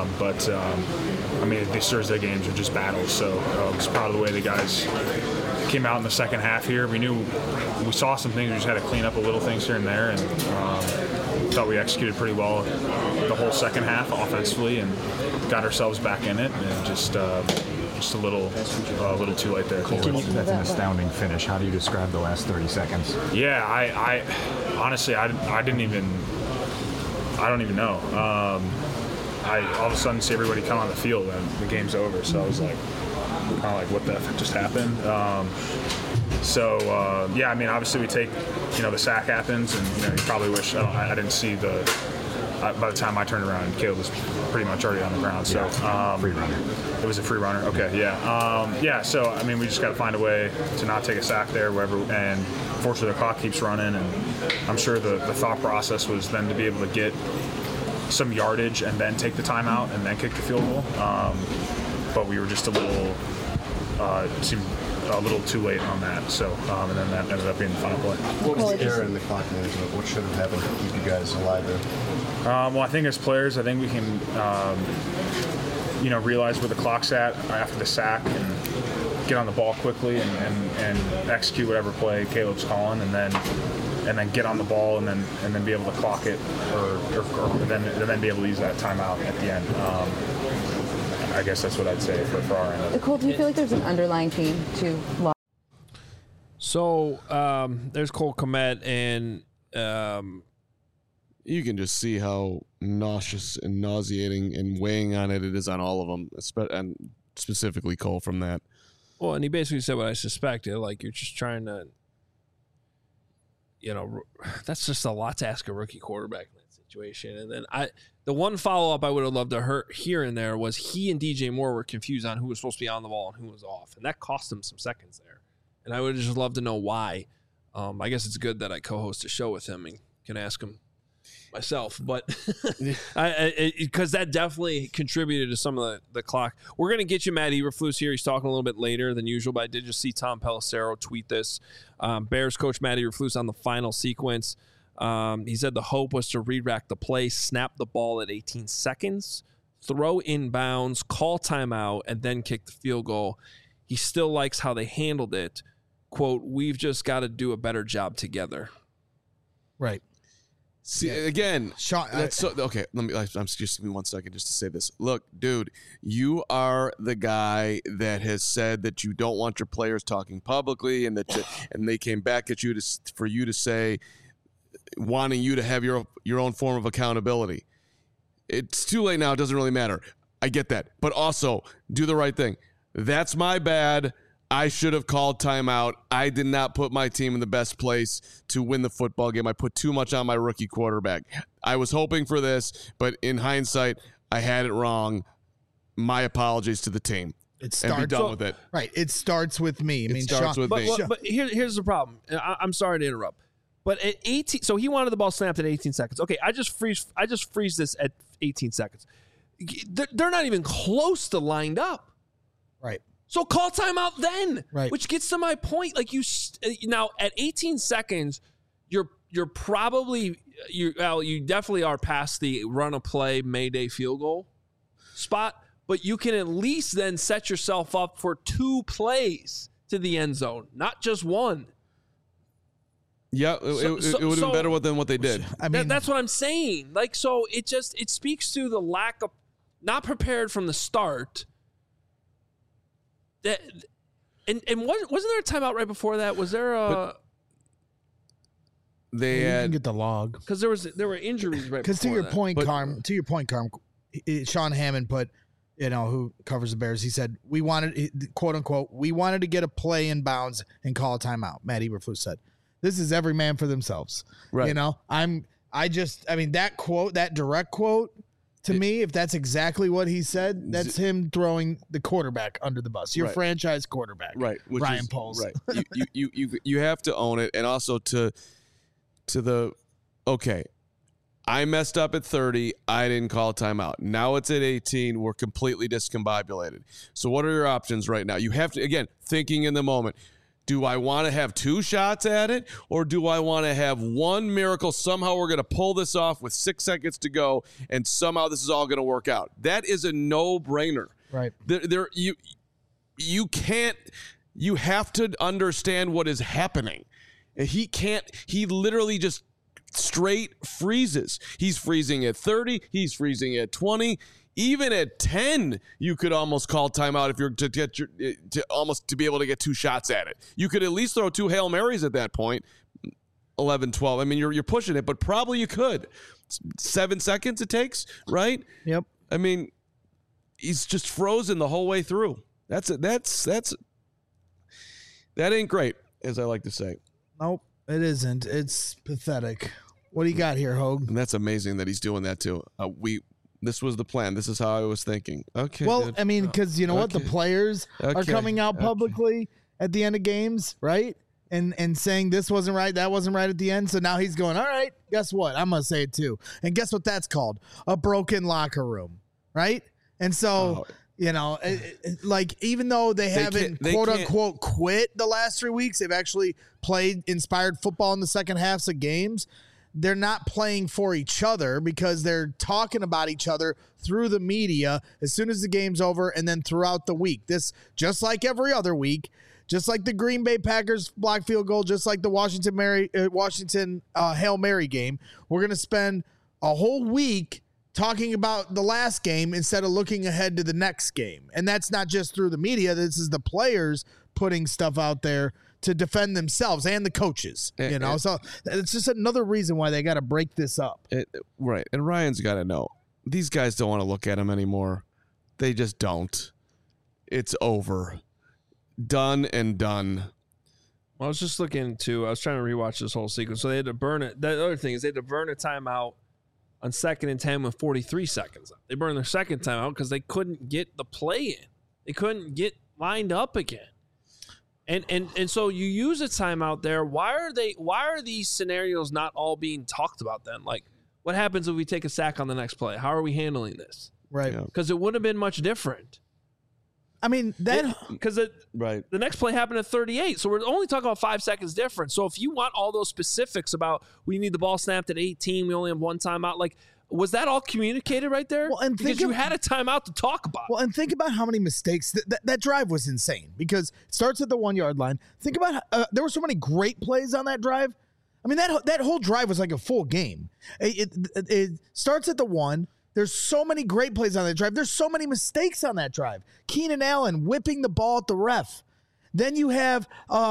These Thursday games are just battles. So it's proud of the way the guys came out in the second half here. We saw some things. We just had to clean up a little things here and there, and thought we executed pretty well the whole second half offensively and got ourselves back in it, and just a little too late there. That's an astounding finish. How do you describe the last 30 seconds? Yeah, I honestly I don't even know. I all of a sudden see everybody come on the field and the game's over. So I was like, kind of like, what the heck just happened? Obviously we take, the sack happens, and you probably wish I didn't see by the time I turned around, Caleb was pretty much already on the ground. So free runner. It was a free runner. Okay, yeah. So we just got to find a way to not take a sack there, wherever. And fortunately, the clock keeps running, and I'm sure the thought process was then to be able to get some yardage and then take the timeout and then kick the field goal. But we were just seemed a little too late on that. So, and then that ended up being the final play. What was the error in the clock management? What should have happened to keep you guys alive there? I think as players, I think we can, realize where the clock's at after the sack and get on the ball quickly and execute whatever play Caleb's calling, and then get on the ball and then be able to clock it, or then be able to use that timeout at the end. I guess that's what I'd say for our end. Cole, do you feel like there's an underlying theme to law? So there's Cole Kmet, and you can just see how nauseous and nauseating and weighing on it is on all of them, and specifically Cole from that. Well, and he basically said what I suspected, like you're just trying to, that's just a lot to ask a rookie quarterback in that situation. And then the one follow-up I would have loved to hear in there was he and DJ Moore were confused on who was supposed to be on the ball and who was off, and that cost him some seconds there. And I would have just loved to know why. I guess it's good that I co-host a show with him and can ask him myself, but because that definitely contributed to some of the clock. We're going to get you Matt Eberflus here. He's talking a little bit later than usual, but I did just see Tom Pelissero tweet this. Bears coach Matt Eberflus on the final sequence. He said the hope was to re-rack the play, snap the ball at 18 seconds, throw inbounds, call timeout, and then kick the field goal. He still likes how they handled it. Quote, we've just got to do a better job together. Right. See, again, Sean, okay. I'm just give me 1 second just to say this. Look, dude, you are the guy that has said that you don't want your players talking publicly, and and they came back at you for you to say, wanting you to have your own form of accountability. It's too late now. It doesn't really matter. I get that, but also do the right thing. That's my bad. I should have called timeout. I did not put my team in the best place to win the football game. I put too much on my rookie quarterback. I was hoping for this, but in hindsight, I had it wrong. My apologies to the team. It starts, and be done with it. Right. It starts with me. It starts with me. But here's the problem. I'm sorry to interrupt. But at 18, so he wanted the ball snapped at 18 seconds. Okay, I just freeze this at 18 seconds. They're not even close to lined up. Right. So call timeout then. Right. Which gets to my point. Like now at 18 seconds, you're probably you definitely are past the run a play Mayday field goal spot, but you can at least then set yourself up for 2 plays to the end zone, not just one. Yeah, it would have been better than what they did. I mean, that's what I'm saying. Like, so it speaks to the lack of not prepared from the start. That and wasn't there a timeout right before that? Was there a? They you had can get the log because there were injuries right. Because to your that. point, Carm, Sean Hammond put, who covers the Bears. He said we wanted, quote unquote, we wanted to get a play in bounds and call a timeout. Matt Eberflus said, "This is every man for themselves." Right. That quote, that direct quote. To me, if that's exactly what he said, that's him throwing the quarterback under the bus. Your franchise quarterback, right? Ryan Poles. Right. you have to own it, and also to the okay. I messed up at 30. I didn't call a timeout. Now it's at 18. We're completely discombobulated. So what are your options right now? You have to, again, thinking in the moment. Do I want to have 2 shots at it, or do I want to have one miracle? Somehow we're going to pull this off with 6 seconds to go, and somehow this is all going to work out. That is a no-brainer. Right. You can't. You have to understand what is happening. He can't. He literally just straight freezes. He's freezing at 30. He's freezing at 20. Even at 10, you could almost call timeout if you're to be able to get 2 shots at it. You could at least throw 2 Hail Marys at that point. 11, 12. I mean, you're pushing it, but probably you could. 7 seconds it takes, right? Yep. I mean, he's just frozen the whole way through. That ain't great, as I like to say. Nope, it isn't. It's pathetic. What do you got here, Hogue? And that's amazing that he's doing that too. This was the plan. This is how I was thinking. Okay. Well, dude. I mean, because you know what? The players are coming out publicly at the end of games, right? And saying this wasn't right, that wasn't right at the end. So now he's going, all right, guess what? I'm going to say it too. And guess what that's called? A broken locker room, right? And so, even though they haven't, quote unquote, quit the last 3 weeks, they've actually played inspired football in the second halves of games. They're not playing for each other because they're talking about each other through the media as soon as the game's over and then throughout the week. This, just like every other week, just like the Green Bay Packers block field goal, just like the Washington Hail Mary game, we're going to spend a whole week talking about the last game instead of looking ahead to the next game. And that's not just through the media. This is the players putting stuff out there to defend themselves and the coaches, so it's just another reason why they got to break this up. Right. And Ryan's got to know these guys don't want to look at him anymore. They just don't. It's over. Done and done. Well, I was just looking I was trying to rewatch this whole sequence. So they had to burn it. The other thing is they had to burn a timeout on 2nd and 10 with 43 seconds. They burned their second timeout because they couldn't get the play in. They couldn't get lined up again. And so you use a timeout there. Why are these scenarios not all being talked about then? Like, what happens if we take a sack on the next play? How are we handling this? Right. Because it would have been much different. I mean, the next play happened at 38, so we're only talking about 5 seconds difference. So if you want all those specifics about we need the ball snapped at 18, we only have one timeout, like, was that all communicated right there? Well, and because you had a timeout to talk about. Well, and think about how many mistakes that drive was insane because it starts at the 1 yard line. Think about there were so many great plays on that drive. I mean, that whole drive was like a full game. It starts at the 1. There's so many great plays on that drive. There's so many mistakes on that drive. Keenan Allen whipping the ball at the ref. Then you have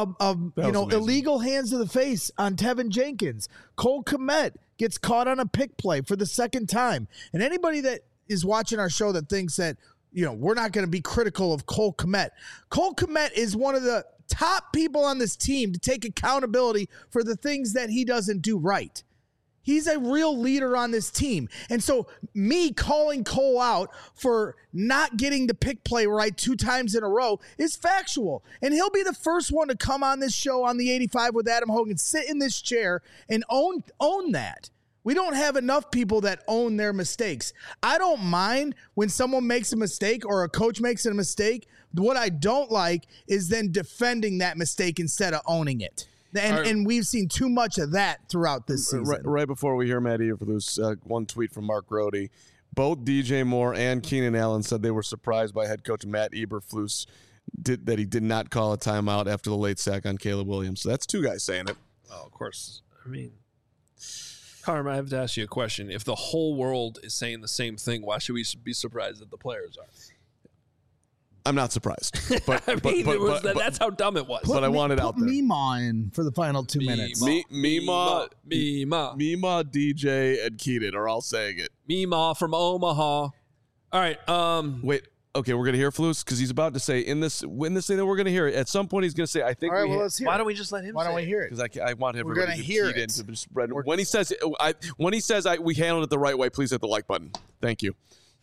illegal hands to the face on Tevin Jenkins. Cole Kmet gets caught on a pick play for the second time. And anybody that is watching our show that thinks that we're not going to be critical of Cole Kmet. Cole Kmet is one of the top people on this team to take accountability for the things that he doesn't do right. He's a real leader on this team. And so me calling Cole out for not getting the pick play right 2 times in a row is factual. And he'll be the first one to come on this show on the 85 with Adam Hogan, sit in this chair and own that. We don't have enough people that own their mistakes. I don't mind when someone makes a mistake or a coach makes a mistake. What I don't like is then defending that mistake instead of owning it. And we've seen too much of that throughout this season. Right before we hear Matt Eberflus, one tweet from Mark Rohde. Both DJ Moore and Keenan Allen said they were surprised by head coach Matt Eberflus that he did not call a timeout after the late sack on Caleb Williams. So that's 2 guys saying it. Oh, of course. I mean, Carm, I have to ask you a question. If the whole world is saying the same thing, why should we be surprised that the players are? I'm not surprised. But, that's how dumb it was. But I want it out there. Put Mima in for the final 2 minutes. Mima, DJ, and Keenan are all saying it. Mima from Omaha. All right. Wait. Okay, we're gonna hear Flus because he's about to say when this thing that we're gonna hear it. At some point, he's gonna say, "I think." All right, let's hear. Why don't we just let him? Why don't we hear it? Because I want him. We're gonna hear it. When he says, we handled it the right way. Please hit the like button. Thank you.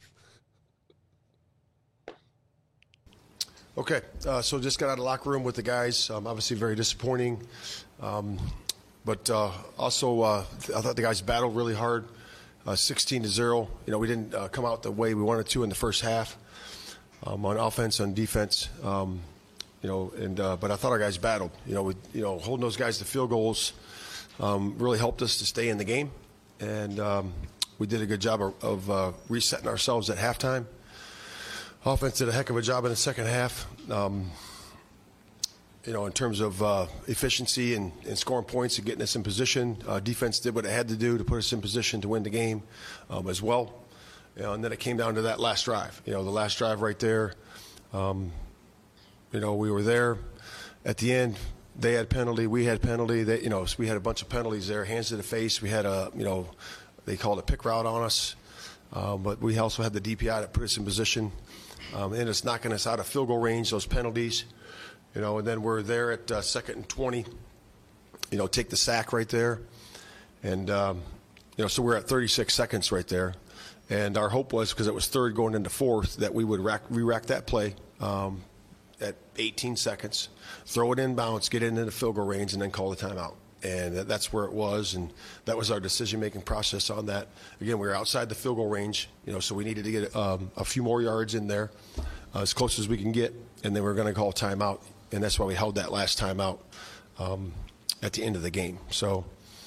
Okay, so just got out of the locker room with the guys. Obviously very disappointing. But also I thought the guys battled really hard, 16-0. We didn't come out the way we wanted to in the first half on offense, on defense. But I thought our guys battled. Holding those guys to field goals really helped us to stay in the game. And we did a good job of resetting ourselves at halftime. Offense did a heck of a job in the second half, in terms of efficiency and scoring points and getting us in position. Defense did what it had to do to put us in position to win the game as well. And then it came down to that last drive. The last drive right there, we were there at the end. They had penalty. We had penalty. So we had a bunch of penalties there, hands to the face. We had they called a pick route on us. But we also had the DPI that put us in position. And it's knocking us out of field goal range, those penalties. And then we're there at 2nd and 20, take the sack right there. And, so we're at 36 seconds right there. And our hope was, because it was 3rd going into 4th, that we would re-rack that play at 18 seconds, throw it in bounds, get it into the field goal range, and then call the timeout. And that's where it was, and that was our decision-making process on that. Again, we were outside the field goal range, so we needed to get a few more yards in there, as close as we can get, and then we're going to call timeout, and that's why we held that last timeout at the end of the game. So,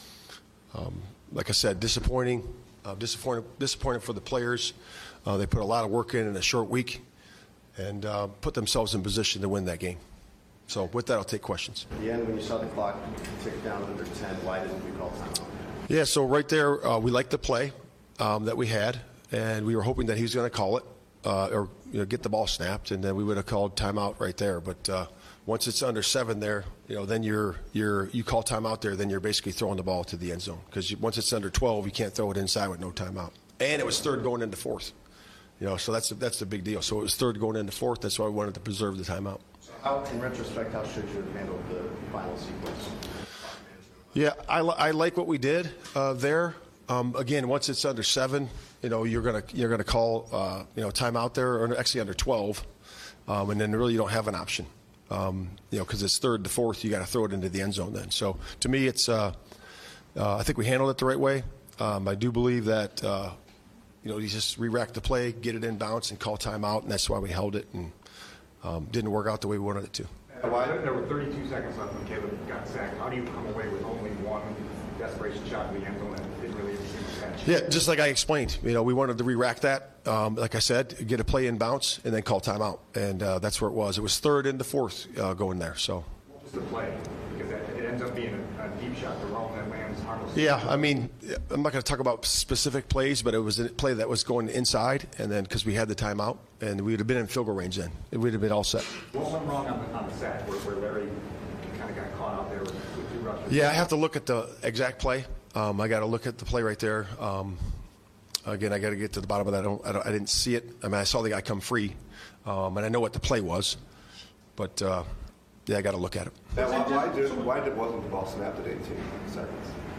like I said, disappointing for the players. They put a lot of work in a short week and put themselves in position to win that game. So with that, I'll take questions. At the end, when you saw the clock tick down under 10, why didn't we call timeout? Yeah, so right there, we liked the play that we had, and we were hoping that he was going to call it or get the ball snapped, and then we would have called timeout right there. But once it's under 7 there, then you call timeout there, then you're basically throwing the ball to the end zone, because once it's under 12, you can't throw it inside with no timeout. And it was 3rd going into 4th, so that's the big deal. So it was 3rd going into 4th. That's why we wanted to preserve the timeout. In retrospect, how should you have handled the final sequence? Yeah, I like what we did there. Again, once it's under 7, you're gonna call timeout there, or actually under 12, and then really you don't have an option. Because it's 3rd to 4th, you got to throw it into the end zone then. So to me, it's I think we handled it the right way. I do believe that you just re-rack the play, get it in bounce, and call timeout, and that's why we held it. And didn't work out the way we wanted it to. There were 32 seconds left when Caleb got sacked. How do you come away with only one desperation shot in the end zone that didn't really catch? Yeah, just like I explained. We wanted to re-rack that. Like I said, get a play in bounce and then call timeout. And that's where it was. It was 3rd into 4th going there. So. What was the play? Because it ends up being a deep shot to Rome that lands harmless. Yeah, I mean, I'm not going to talk about specific plays, but it was a play that was going inside, and then because we had the timeout, and we would have been in field goal range then. It would have been all set. What went wrong on the sack where Larry kind of got caught out there with 2 rushes? Yeah, I have to look at the exact play. I got to look at the play right there. Again, I got to get to the bottom of that. I didn't see it. I mean, I saw the guy come free, and I know what the play was, but yeah, I got to look at it. Why wasn't the ball snapped at 18 seconds?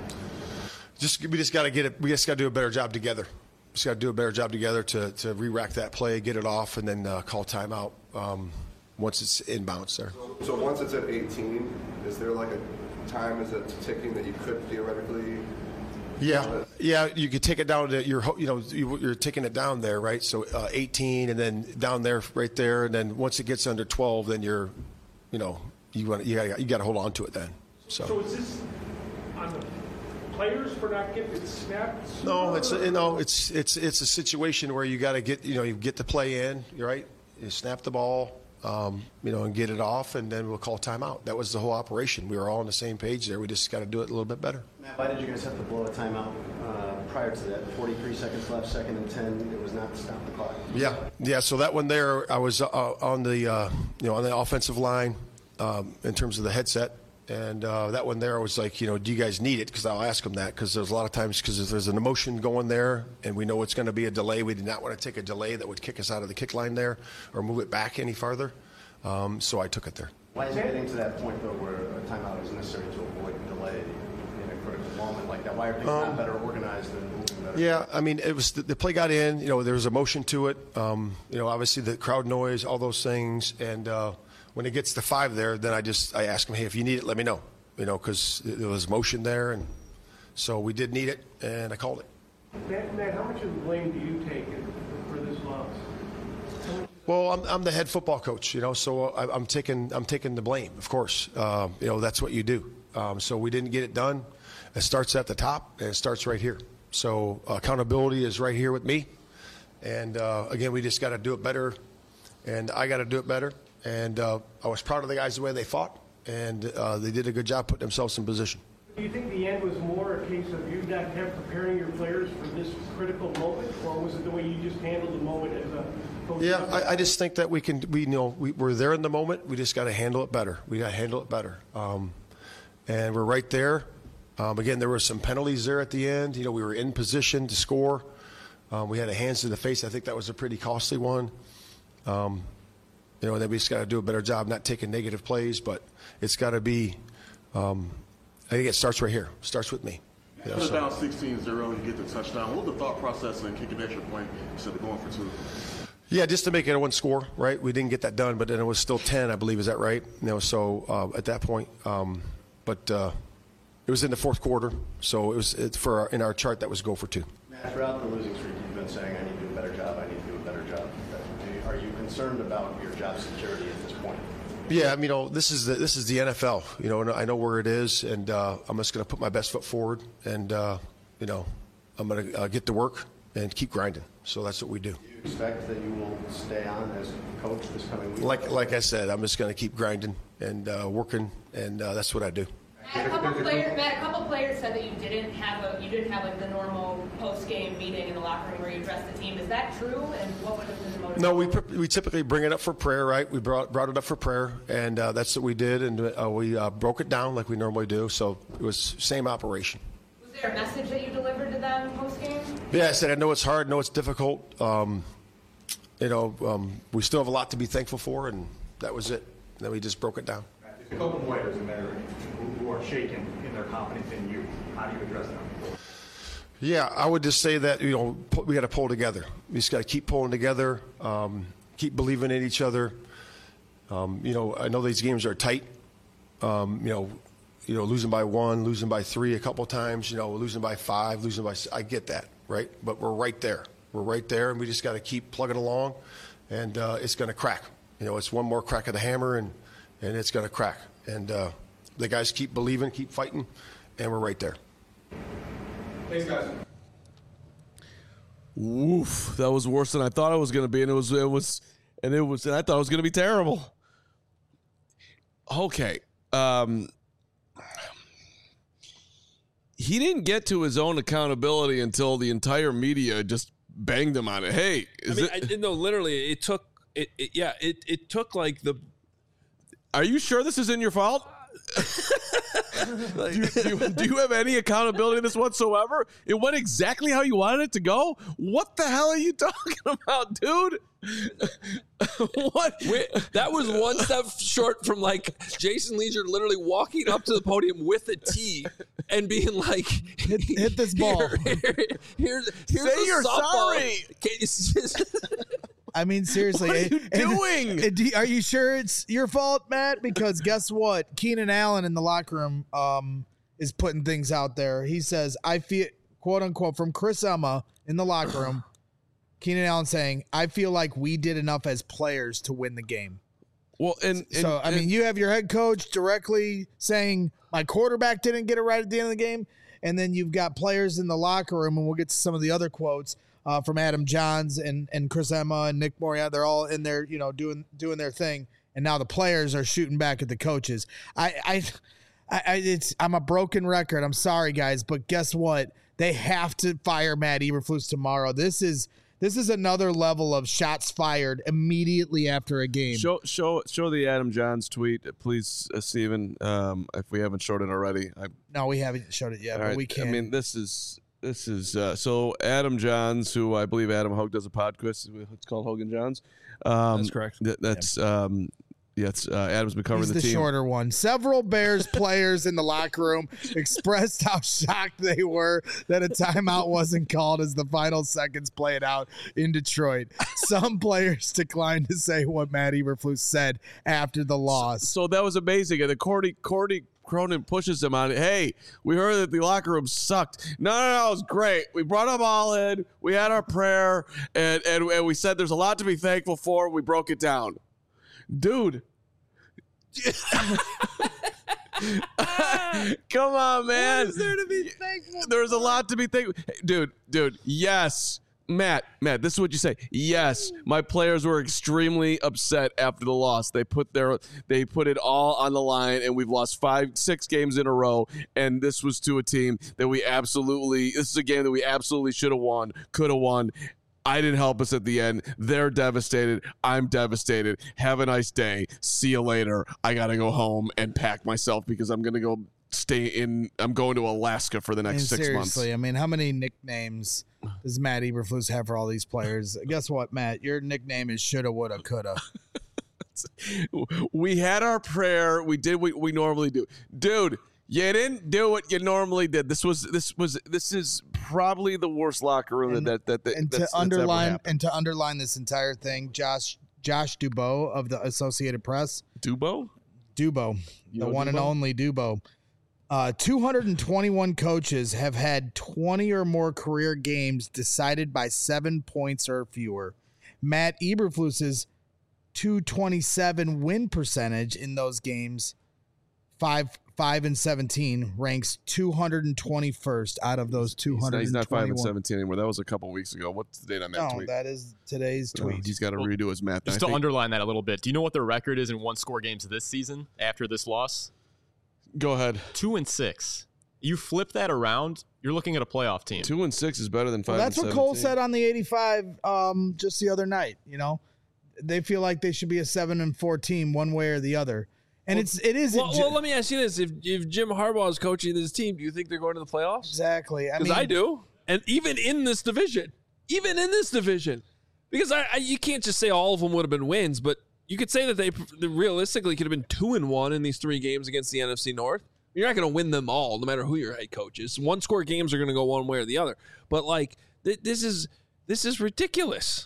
We just got to get it. We just got to do a better job together. Just got to do a better job together to re-rack that play, get it off, and then call timeout once it's inbounds there. So once it's at 18, is there like a time is it ticking that you could theoretically? Yeah, you could take it down to you're taking it down there, right? So 18, and then down there, right there, and then once it gets under 12, then you got to hold on to it then. So is this on the players for not getting it snapped? No, it's a situation where you got to get you get the play in, right? You snap the ball, and get it off, and then we'll call timeout. That was the whole operation. We were all on the same page there. We just got to do it a little bit better. Matt, why did you guys have to blow a timeout prior to that? 43 seconds left, 2nd and 10. It was not to stop the clock. Yeah. So that one there, I was on the on the offensive line in terms of the headset. And that one there, I was like, do you guys need it? Because I'll ask them that, because there's a lot of times, because if there's an emotion going there and we know it's going to be a delay, we did not want to take a delay that would kick us out of the kick line there or move it back any farther. So I took it there. Why is it getting to that point, though, where a timeout is necessary to avoid delay in a critical moment like that? Why are things not better organized and moving better? Yeah, I mean, it was the play got in. There was emotion to it. Obviously the crowd noise, all those things, and when it gets to 5 there, then I ask him, hey, if you need it, let me know, because there was motion there, and so we did need it, and I called it. Matt, how much of the blame do you take for this loss? Well, I'm the head football coach, so I'm taking the blame, of course. That's what you do. So we didn't get it done. It starts at the top, and it starts right here. So accountability is right here with me, and again, we just got to do it better, and I got to do it better. And I was proud of the guys the way they fought, and they did a good job putting themselves in position. Do you think the end was more a case of you not preparing your players for this critical moment, or was it the way you just handled the moment as a coach? Yeah, I just think that we're there in the moment. We just got to handle it better. We got to handle it better, and we're right there. Again, there were some penalties there at the end. We were in position to score. We had a hands to the face. I think that was a pretty costly one. Then we just got to do a better job not taking negative plays, but it's got to be. I think it starts right here. It starts with me. Put it down 16-0, you get the touchdown. What was the thought process in kicking an extra point instead of going for 2? Yeah, just to make it a 1 score, right? We didn't get that done, but then it was still 10, I believe. Is that right? So at that point, but it was in the 4th quarter, so in our chart that was go for 2. Matt, throughout the losing streak, you've been saying, I need to do a better job. I need to do a better job. Are you concerned about your job security at this point? Yeah, this is the NFL. And I know where it is, and I'm just going to put my best foot forward, and I'm going to get to work and keep grinding. So that's what we do. Do you expect that you will stay on as coach this coming week? Like I said, I'm just going to keep grinding and working, and that's what I do. Matt, a couple players said that you didn't have like the normal post-game meeting in the locker room where you address the team. Is that true? And what would have been the motivation? No, we typically bring it up for prayer, right? We brought it up for prayer, and that's what we did, and we broke it down like we normally do. So it was same operation. Was there a message that you delivered to them post-game? Yeah, I said I know it's hard, I know it's difficult. We still have a lot to be thankful for, and that was it. And then we just broke it down. There's a couple players in there who are shaken in their confidence in you. How do you address them? Yeah, I would just say that we got to pull together. We just got to keep pulling together, keep believing in each other. I know these games are tight. Losing by 1, losing by 3 a couple times. Losing by 5, losing by 6. I get that, right? But we're right there. We're right there, and we just got to keep plugging along, and it's going to crack. It's one more crack of the hammer, and it's going to crack. And the guys keep believing, keep fighting, and we're right there. Thanks, guys. Woof! That was worse than I thought it was going to be, and I thought it was going to be terrible. Okay, he didn't get to his own accountability until the entire media just banged him on it. Hey, literally, it took like the. Are you sure this isn't your fault? do you have any accountability in this whatsoever? It went exactly how you wanted it to go. What the hell are you talking about, dude? What? That was one step short from like Jason Leisure literally walking up to the podium with a tee and being like, hit this ball. Here's Say you're sorry. I mean, seriously. What are you doing? Are you sure it's your fault, Matt? Because guess what? Keenan Allen in the locker room is putting things out there. He says, I feel, quote unquote, from Chris Emma in the locker room, Keenan Allen saying, I feel like we did enough as players to win the game. Well, I mean, you have your head coach directly saying my quarterback didn't get it right at the end of the game. And then you've got players in the locker room, and we'll get to some of the other quotes from Adam Johns and Chris Emma and Nick Moriarty. They're all in there, doing their thing. And now the players are shooting back at the coaches. I'm a broken record. I'm sorry, guys, but guess what? They have to fire Matt Eberflus tomorrow. This is another level of shots fired immediately after a game. Show the Adam Johns tweet, please, Steven, if we haven't showed it already. No, we haven't showed it yet, but we can. I mean, this is so Adam Johns, who I believe Adam Hogue does a podcast. It's called Hogan Johns. That's correct. Adam's been covering He's the team. Shorter one. Several Bears players in the locker room expressed how shocked they were that a timeout wasn't called as the final seconds played out in Detroit. Some players declined to say what Matt Eberflus said after the loss. So that was amazing. And then Cordy Cronin pushes him on it. Hey, we heard that the locker room sucked. No, it was great. We brought them all in. We had our prayer, and we said there's a lot to be thankful for. We broke it down. Dude. Come on, man. What is there to be thankful for? There's a lot to be thankful. Dude, yes. Matt, this is what you say. Yes, my players were extremely upset after the loss. They put it all on the line, and we've lost 5-6 games in a row. And this was to a team that this is a game that we absolutely should have won, could have won. I didn't help us at the end. They're devastated. I'm devastated. Have a nice day. See you later. I got to go home and pack myself because I'm going to go I'm going to Alaska for the next 6 months. Seriously, I mean, how many nicknames does Matt Eberflus have for all these players? Guess what, Matt? Your nickname is shoulda, woulda, coulda. We had our prayer. We did what we normally do. Dude, you didn't do what you normally did. This is probably the worst locker room that's to underline this entire thing, Josh Dubow of the Associated Press. Dubow, the one and only Dubow. 221 coaches have had 20 or more career games decided by 7 points or fewer. Matt Eberflus's 227 win percentage in those games, 5-17, ranks 221st out of those 221. He's not 5-17 anymore. That was a couple weeks ago. What's the date on that tweet? No, that is today's tweet. He's got to redo his math. Just to underline that a little bit, do you know what the record is in one-score games this season after this loss? Go ahead. 2-6. You flip that around, you're looking at a playoff team. 2-6 is better than 5-17. That's what Cole said on the 85 just the other night. They feel like they should be a 7-4 team one way or the other. And it is. Well, let me ask you this: if Jim Harbaugh is coaching this team, do you think they're going to the playoffs? Exactly. Because I do, and even in this division, because you can't just say all of them would have been wins, but you could say that they realistically could have been 2-1 in these 3 games against the NFC North. You're not going to win them all, no matter who your head coach is. One-score games are going to go one way or the other. But this is ridiculous.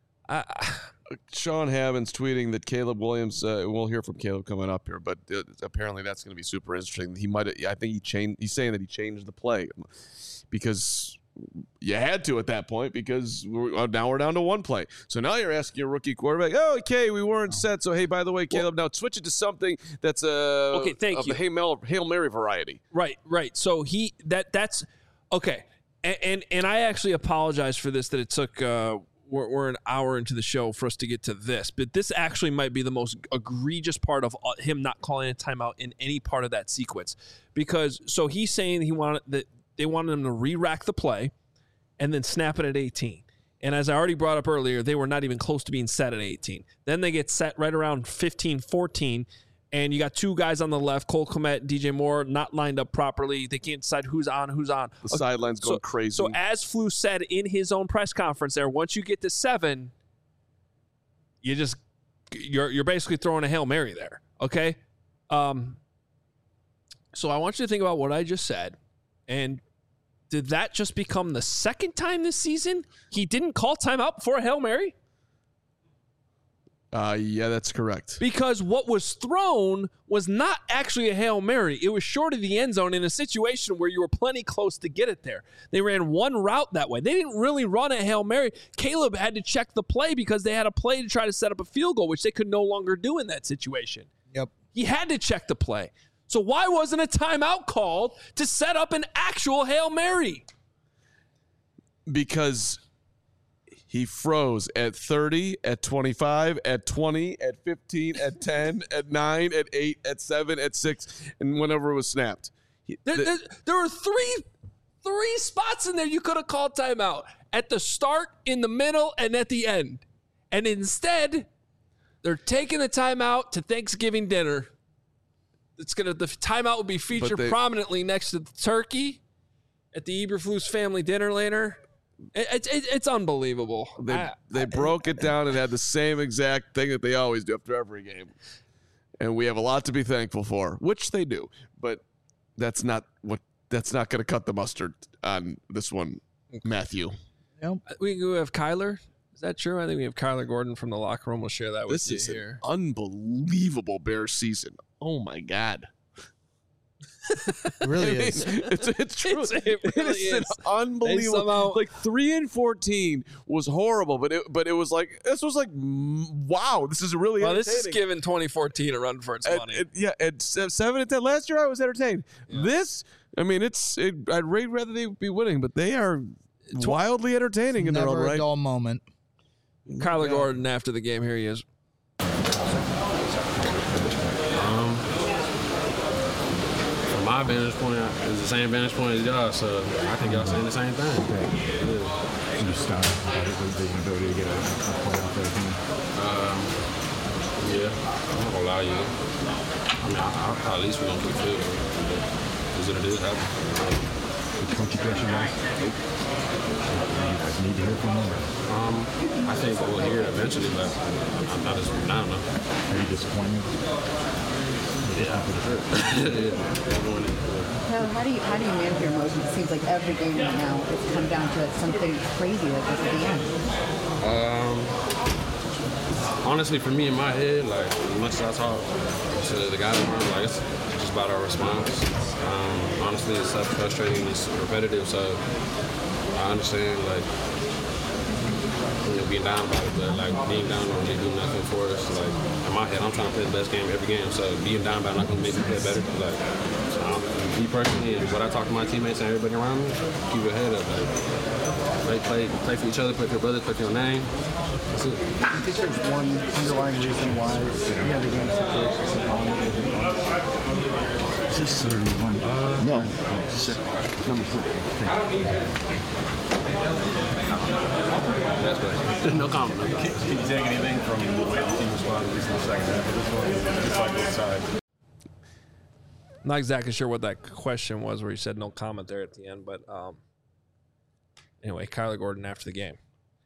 Sean Havens tweeting that Caleb Williams. We'll hear from Caleb coming up here, but apparently that's going to be super interesting. He's saying that he changed the play because you had to at that point because now we're down to 1 play. So now you're asking your rookie quarterback, okay, we weren't set. So hey, by the way, Caleb, now switch it to something that's okay. Thank you. The Hail Mary variety. Right. So that's okay. And I actually apologize for this that it took. We're an hour into the show for us to get to this, but this actually might be the most egregious part of him not calling a timeout in any part of that sequence. Because so he's saying they wanted him to re-rack the play and then snap it at 18. And as I already brought up earlier, they were not even close to being set at 18. Then they get set right around 15-14, and you got two guys on the left, Cole Kmet, DJ Moore, not lined up properly. They can't decide who's on, who's on. The sideline's going crazy. So as Flu said in his own press conference there, once you get to 7, you're basically throwing a Hail Mary there, okay? So I want you to think about what I just said, and did that just become the second time this season he didn't call timeout before a Hail Mary? Yeah, that's correct. Because what was thrown was not actually a Hail Mary. It was short of the end zone in a situation where you were plenty close to get it there. They ran one route that way. They didn't really run a Hail Mary. Caleb had to check the play because they had a play to try to set up a field goal, which they could no longer do in that situation. Yep. He had to check the play. So why wasn't a timeout called to set up an actual Hail Mary? Because he froze at 30, at 25, at 20, at 15, at 10, at 9, at 8, at 7, at 6, and whenever it was snapped. There were three spots in there you could have called timeout. At the start, in the middle, and at the end. And instead, they're taking the timeout to Thanksgiving dinner. The timeout will be featured prominently next to the turkey at the Eberflus family dinner later. It's unbelievable. They broke it down and had the same exact thing that they always do after every game. And we have a lot to be thankful for, which they do. But that's not going to cut the mustard on this one, Matthew. Yep. We have Kyler. Is that true? I think we have Kyler Gordon from the locker room. We'll share that with you here. This is an unbelievable Bears season. Oh, my God. It really is. It's true. It really is. Unbelievable. Like 3-14 was horrible, but it was like wow, this is really entertaining. This is giving 2014 a run for its money. At 7-10 last year, I was entertained. Yeah. This, I mean, I'd rather they be winning, but they are wildly entertaining in their own right. Never a dull moment. Kyler Gordon after the game. Here he is. My vantage point is the same vantage point as y'all, so I think y'all saying the same thing. Okay. Yeah. You start the ability to get a playoff there. Yeah, I'm not gonna lie to you. I mean, I at least we're gonna keep field. Is what it is. Did Coach address you guys? Nope. You guys need to hear from them? I think we'll hear it eventually, but I don't know. Are you disappointed? Yeah. Taylor, how do you manage your emotions? It seems like every game right now it's come down to something crazy like this at the end. Honestly, for me in my head, like as much as I talk to the guys around, like it's just about our response. Honestly, it's frustrating, it's repetitive, so I understand like being down about it, but like being down don't really do nothing for us. Like in my head, I'm trying to play the best game every game, so being down about it not gonna make me play better. Like me personally, and what I talk to my teammates and everybody around me, keep your head up. Like play for each other, play for your brother, play for your name. That's it. I think there's one underlying reason why you have the game situation. Is this 31? No. Number 4. That's right. No comment. Can you take anything from the way the team responded, at least in the second half of this one? It's like both sides. Not exactly sure what that question was where you said no comment there at the end, but anyway, Kyler Gordon after the game.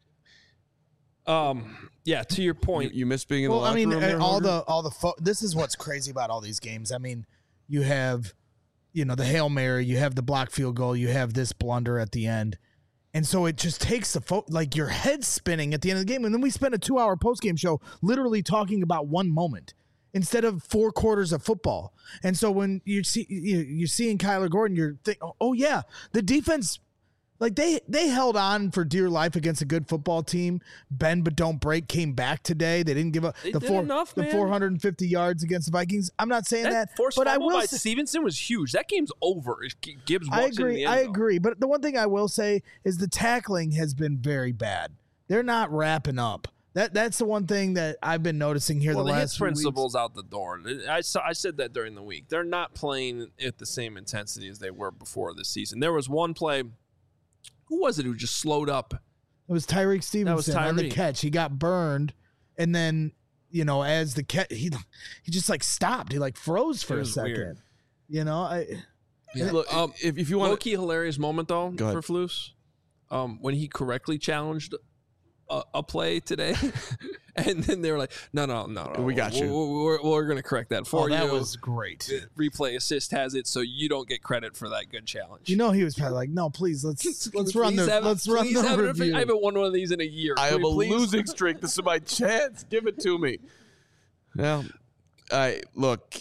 Yeah, to your point, you miss being in the locker room. Well, this is what's crazy about all these games. I mean, you have, the Hail Mary, you have the block field goal, you have this blunder at the end. And so it just takes like your head spinning at the end of the game. And then we spent a 2-hour postgame show literally talking about one moment instead of 4 quarters of football. And so when you're seeing Kyler Gordon, you're thinking, oh yeah, the defense, like they held on for dear life against a good football team. Bend but don't break came back today. They didn't give up the 450 yards against the Vikings. I'm not saying that, but I will say Stevenson was huge. That game's over. Gibbs I walks in the end I zone. agree. But the one thing I will say is the tackling has been very bad. They're not wrapping up. That's the one thing that I've been noticing here the last few weeks. Principle's out the door. I said that during the week. They're not playing at the same intensity as they were before this season. There was one play. Who was it who just slowed up? It was Tyreek Stevenson on the catch. He got burned, and then as the cat, he just like stopped. He like froze for a second. Weird. Look, if you want low-key hilarious moment though Go ahead. for Flus, when he correctly challenged a play today, and then they were like, no, we got you. We're going to correct that for you. That was great. Replay assist has it, so you don't get credit for that good challenge. He was probably like, no, please let's run the review. I haven't won one of these in a year. I have a Please. losing streak. This is my chance. Give it to me. Well, look.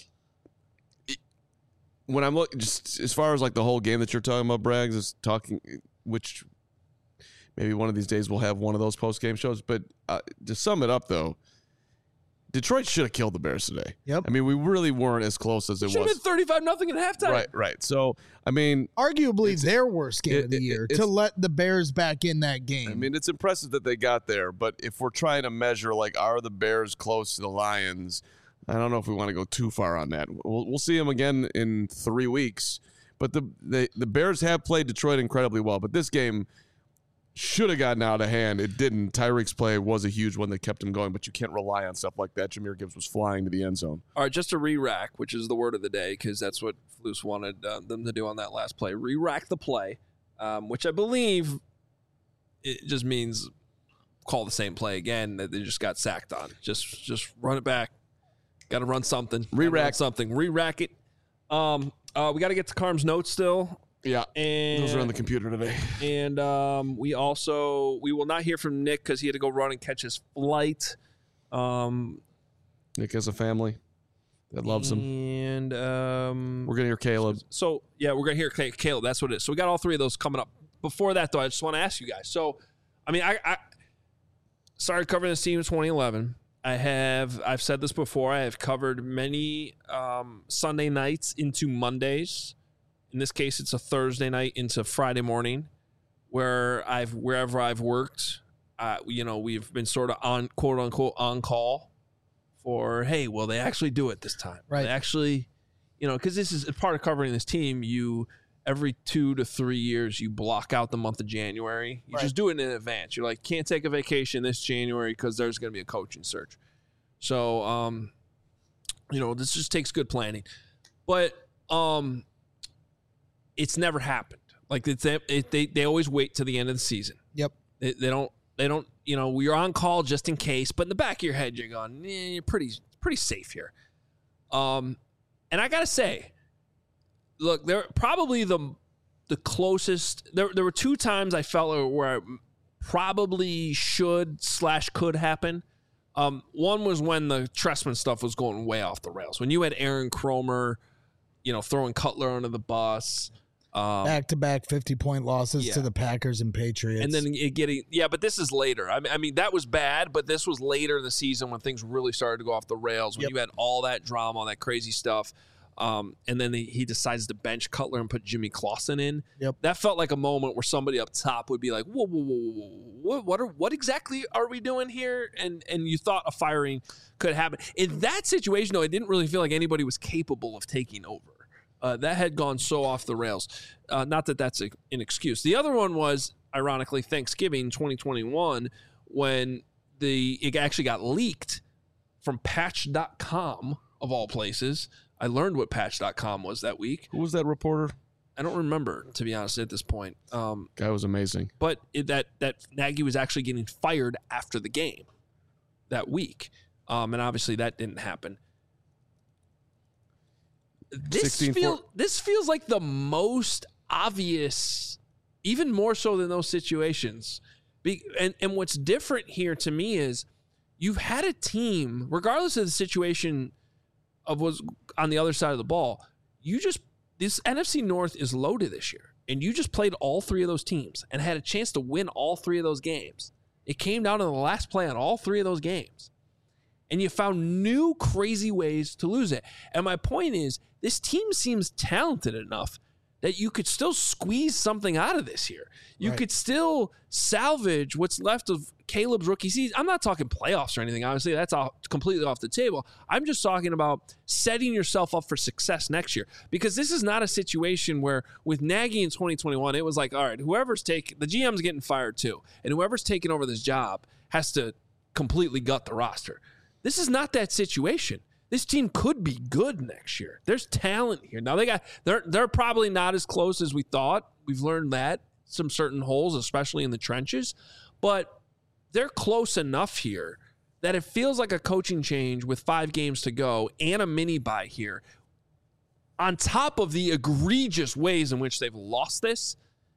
When I'm looking, just as far as like the whole game that you're talking about, Braggs is talking, which maybe one of these days we'll have one of those post-game shows. But to sum it up, though, Detroit should have killed the Bears today. Yep. I mean, we really weren't as close as it Should was. have been 35-0 at halftime. Right. So, I mean, Arguably their worst game of the year to let the Bears back in that game. I mean, it's impressive that they got there. But if we're trying to measure, like, are the Bears close to the Lions? I don't know if we want to go too far on that. We'll see them again in 3 weeks. But the Bears have played Detroit incredibly well. But this game should have gotten out of hand. It didn't. Tyreek's play was a huge one that kept him going, but you can't rely on stuff like that. Jahmyr Gibbs was flying to the end zone. All right, just a re-rack, which is the word of the day, because that's what Flus wanted them to do on that last play. Re-rack the play, which I believe it just means call the same play again that they just got sacked on. Just run it back. Got to run something. Re-rack something. Re-rack it. We got to get to Carm's notes still. Yeah, and those are on the computer today. And we will not hear from Nick because he had to go run and catch his flight. Nick has a family that loves him. And we're going to hear Caleb. So, yeah, we're going to hear Caleb. That's what it is. So we got all three of those coming up. Before that, though, I just want to ask you guys. So, I mean, I started covering this team in 2011. I've said this before. I have covered many Sunday nights into Mondays. In this case, it's a Thursday night into Friday morning, wherever I've worked. We've been sort of on quote unquote on call for, hey, will they actually do it this time? Right. They actually, because this is part of covering this team. You every 2 to 3 years you block out the month of January. You just do it in advance. You're like, can't take a vacation this January because there's going to be a coaching search. So, this just takes good planning. But it's never happened. Like they always wait till the end of the season. Yep. They don't. We're on call just in case. But in the back of your head, you're going, you're pretty safe here. And I gotta say, look, they're probably the closest. There were 2 times I felt where it probably could happen. One was when the Trestman stuff was going way off the rails. When you had Aaron Cromer, throwing Cutler under the bus. Back-to-back 50-point losses to the Packers and Patriots. And then but this is later. I mean, that was bad, but this was later in the season when things really started to go off the rails, when you had all that drama, all that crazy stuff. And then he decides to bench Cutler and put Jimmy Clausen in. Yep. That felt like a moment where somebody up top would be like, whoa, what exactly are we doing here? And you thought a firing could happen. In that situation, though, I didn't really feel like anybody was capable of taking over. That had gone so off the rails. Not that that's an excuse. The other one was, ironically, Thanksgiving 2021, when it actually got leaked from Patch.com, of all places. I learned what Patch.com was that week. Who was that reporter? I don't remember, to be honest, at this point. Guy was amazing. But that Nagy was actually getting fired after the game that week. And obviously that didn't happen. This feels like the most obvious, even more so than those situations. And what's different here to me is you've had a team, regardless of the situation of what's on the other side of the ball, this NFC North is loaded this year. And you just played all 3 of those teams and had a chance to win all 3 of those games. It came down to the last play on all 3 of those games. And you found new crazy ways to lose it. And my point is, this team seems talented enough that you could still squeeze something out of this year. You could still salvage what's left of Caleb's rookie season. I'm not talking playoffs or anything. Obviously, that's completely off the table. I'm just talking about setting yourself up for success next year. Because this is not a situation where with Nagy in 2021, it was like, all right, the GM's getting fired too. And whoever's taking over this job has to completely gut the roster. This is not that situation. This team could be good next year. There's talent here. Now they're probably not as close as we thought. We've learned that some certain holes, especially in the trenches, but they're close enough here that it feels like a coaching change with 5 games to go and a mini bye here. On top of the egregious ways in which they've lost this,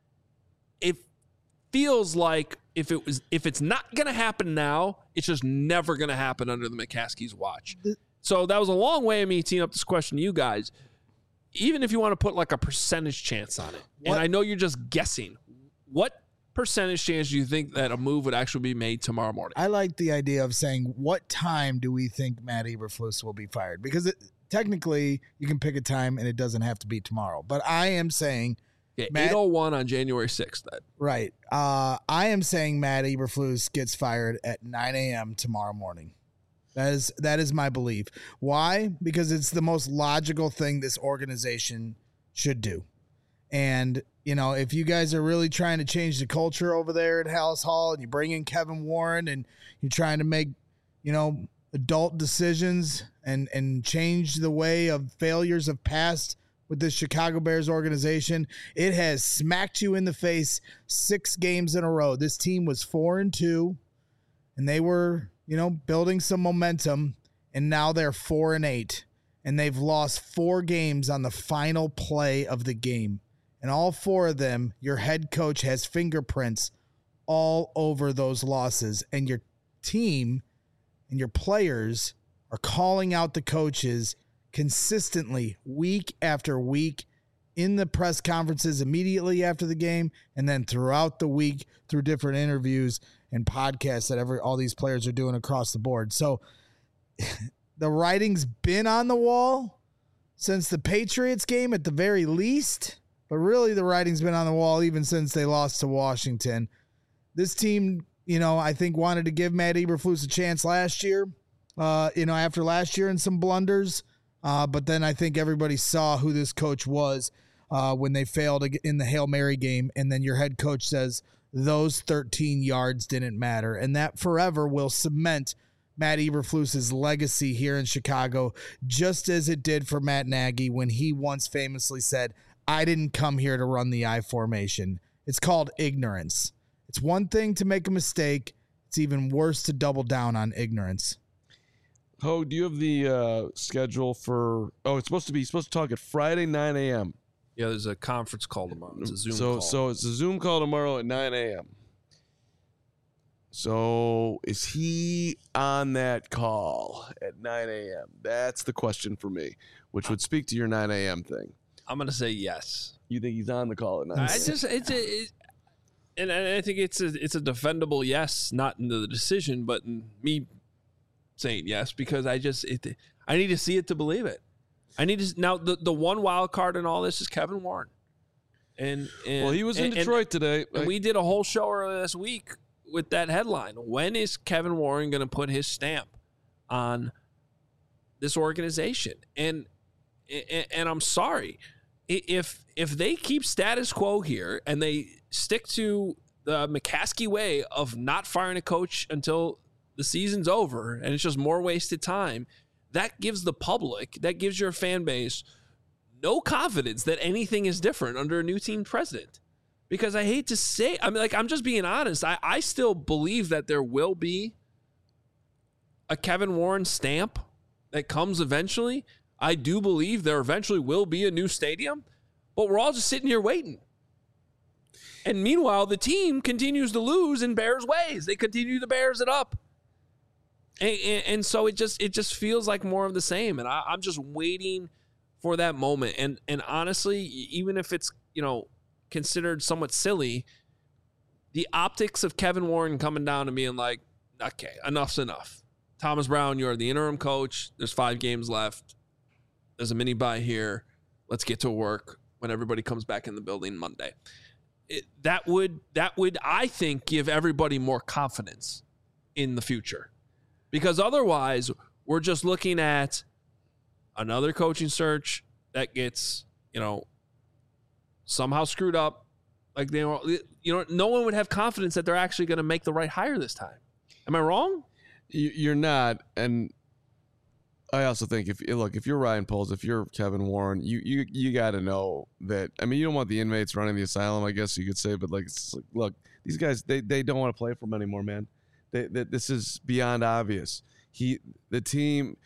it feels like if it's not going to happen now, it's just never going to happen under the McCaskey's watch. So that was a long way of me teeing up this question to you guys. Even if you want to put like a percentage chance on it, and I know you're just guessing, what percentage chance do you think that a move would actually be made tomorrow morning? I like the idea of saying, what time do we think Matt Eberflus will be fired? Because technically, you can pick a time and it doesn't have to be tomorrow. But I am saying... 8:01 on January 6th. Then. Right. I am saying Matt Eberflus gets fired at 9 a.m. tomorrow morning. That is my belief. Why? Because it's the most logical thing this organization should do. And, if you guys are really trying to change the culture over there at Halas Hall and you bring in Kevin Warren and you're trying to make, adult decisions and change the way of failures of past with this Chicago Bears organization, it has smacked you in the face 6 games in a row. This team was 4-2 and they were, building some momentum, and now they're 4-8 and they've lost 4 games on the final play of the game. And all 4 of them, your head coach has fingerprints all over those losses, and your team and your players are calling out the coaches consistently week after week in the press conferences immediately after the game, and then throughout the week through different interviews and podcasts that all these players are doing across the board. So the writing's been on the wall since the Patriots game at the very least, but really the writing's been on the wall even since they lost to Washington. This team, I think wanted to give Matt Eberflus a chance last year, after last year and some blunders. But then I think everybody saw who this coach was when they failed in the Hail Mary game. And then your head coach says those 13 yards didn't matter. And that forever will cement Matt Eberflus's legacy here in Chicago, just as it did for Matt Nagy when he once famously said, I didn't come here to run the I formation. It's called ignorance. It's one thing to make a mistake. It's even worse to double down on ignorance. Ho, do you have the schedule for? Oh, it's supposed to talk at Friday 9 a.m. Yeah, there's a conference call tomorrow. It's a Zoom call. So it's a Zoom call tomorrow at 9 a.m. So is he on that call at 9 a.m.? That's the question for me, which would speak to your 9 a.m. thing. I'm going to say yes. You think he's on the call at 9 a.m.? And I think it's a defendable yes, not in the decision, but in me saying yes, because I need to see it to believe it. I need to now the one wild card in all this is Kevin Warren, and well, he was in Detroit today. And we did a whole show earlier this week with that headline. When is Kevin Warren going to put his stamp on this organization? And I'm sorry, if they keep status quo here and they stick to the McCaskey way of not firing a coach until the season's over and it's just more wasted time, that gives the public, that gives your fan base no confidence that anything is different under a new team president. Because I hate to say, I'm just being honest. I still believe that there will be a Kevin Warren stamp that comes eventually. I do believe there eventually will be a new stadium, but we're all just sitting here waiting. And meanwhile, the team continues to lose in Bears ways. They continue to Bears it up. And so it just feels like more of the same. And I'm just waiting for that moment. And honestly, even if it's, considered somewhat silly, the optics of Kevin Warren coming down and being like, okay, enough's enough. Thomas Brown, you're the interim coach. There's 5 games left. There's a mini bye here. Let's get to work when everybody comes back in the building Monday. That would, I think, give everybody more confidence in the future. Because otherwise, we're just looking at another coaching search that gets, somehow screwed up. Like no one would have confidence that they're actually going to make the right hire this time. Am I wrong? You're not, and I also think if you're Ryan Poles, if you're Kevin Warren, you got to know that. I mean, you don't want the inmates running the asylum, I guess you could say, but look, these guys they don't want to play for them anymore, man. This is beyond obvious. The team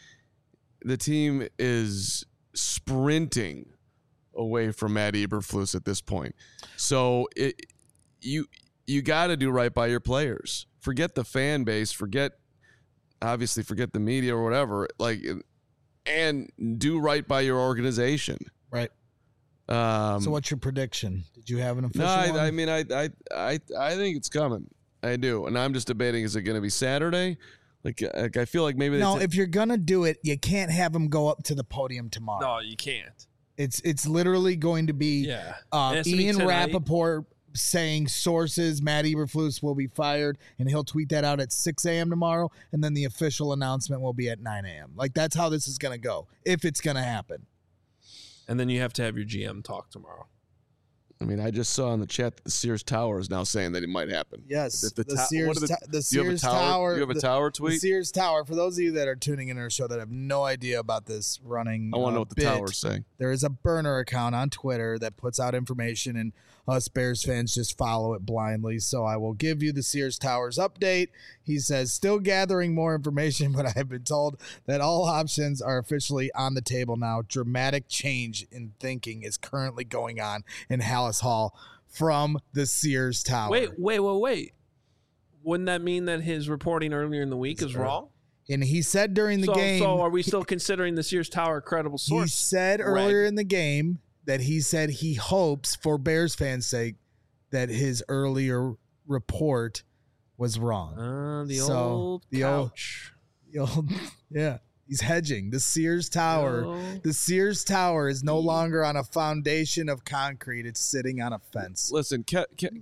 is sprinting away from Matt Eberflus at this point. So you got to do right by your players. Forget the fan base. Forget the media or whatever. And do right by your organization. Right. So what's your prediction? Did you have an official one? I mean, I think it's coming. I do, and I'm just debating: is it going to be Saturday? Like I feel like maybe if you're gonna do it, you can't have them go up to the podium tomorrow. No, you can't. It's literally going to be Ian Rappaport saying sources Matt Eberflus will be fired, and he'll tweet that out at 6 a.m. tomorrow, and then the official announcement will be at 9 a.m. Like that's how this is going to go, if it's going to happen. And then you have to have your GM talk tomorrow. I mean, I just saw in the chat that the Sears Tower is now saying that it might happen. Yes, the Sears Tower. You have a tower tweet? The Sears Tower. For those of you that are tuning in our show that have no idea about this running, I want to know what the tower's saying. There is a burner account on Twitter that puts out information, and us Bears fans just follow it blindly. So I will give you the Sears Towers update. He says, still gathering more information, but I have been told that all options are officially on the table now. Dramatic change in thinking is currently going on in Hallis Hall from the Sears Tower. Wait. Wouldn't that mean that his reporting earlier in the week is wrong? And he said during the game. So are we still considering the Sears Tower a credible source? He said earlier in the game that he said he hopes, for Bears fans' sake, that his earlier report was wrong. The old couch. Yeah. He's hedging. The Sears Tower. The Sears Tower is no longer on a foundation of concrete. It's sitting on a fence. Listen, Kevin,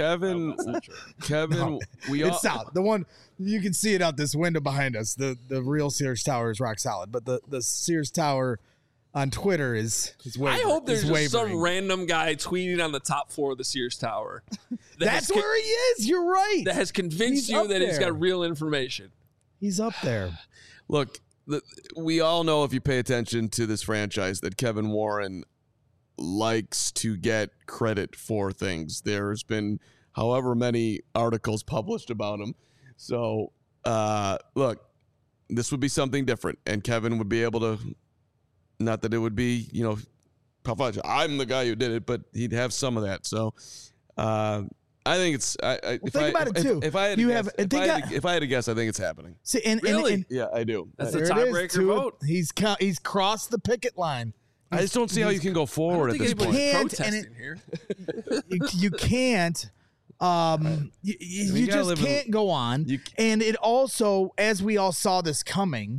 No, it's out. The one you can see it out this window behind us. The real Sears Tower is rock solid, but the Sears Tower on Twitter is wavering. I hope there's just some random guy tweeting on the top floor of the Sears Tower. That's where he is. You're right. That has convinced you that he's got real information. He's up there. Look, we all know, if you pay attention to this franchise, that Kevin Warren likes to get credit for things. There's been however many articles published about him. So, look, this would be something different, and Kevin would be able to, not that it would be, I'm the guy who did it, but he'd have some of that. So, I think it's. Think about it too. If I had to guess, I think it's happening. See, really? Yeah, I do. That's the tiebreaker vote. He's crossed the picket line. I just don't see how you can go forward at this point. You can't. You just can't go on. And it also, as we all saw this coming,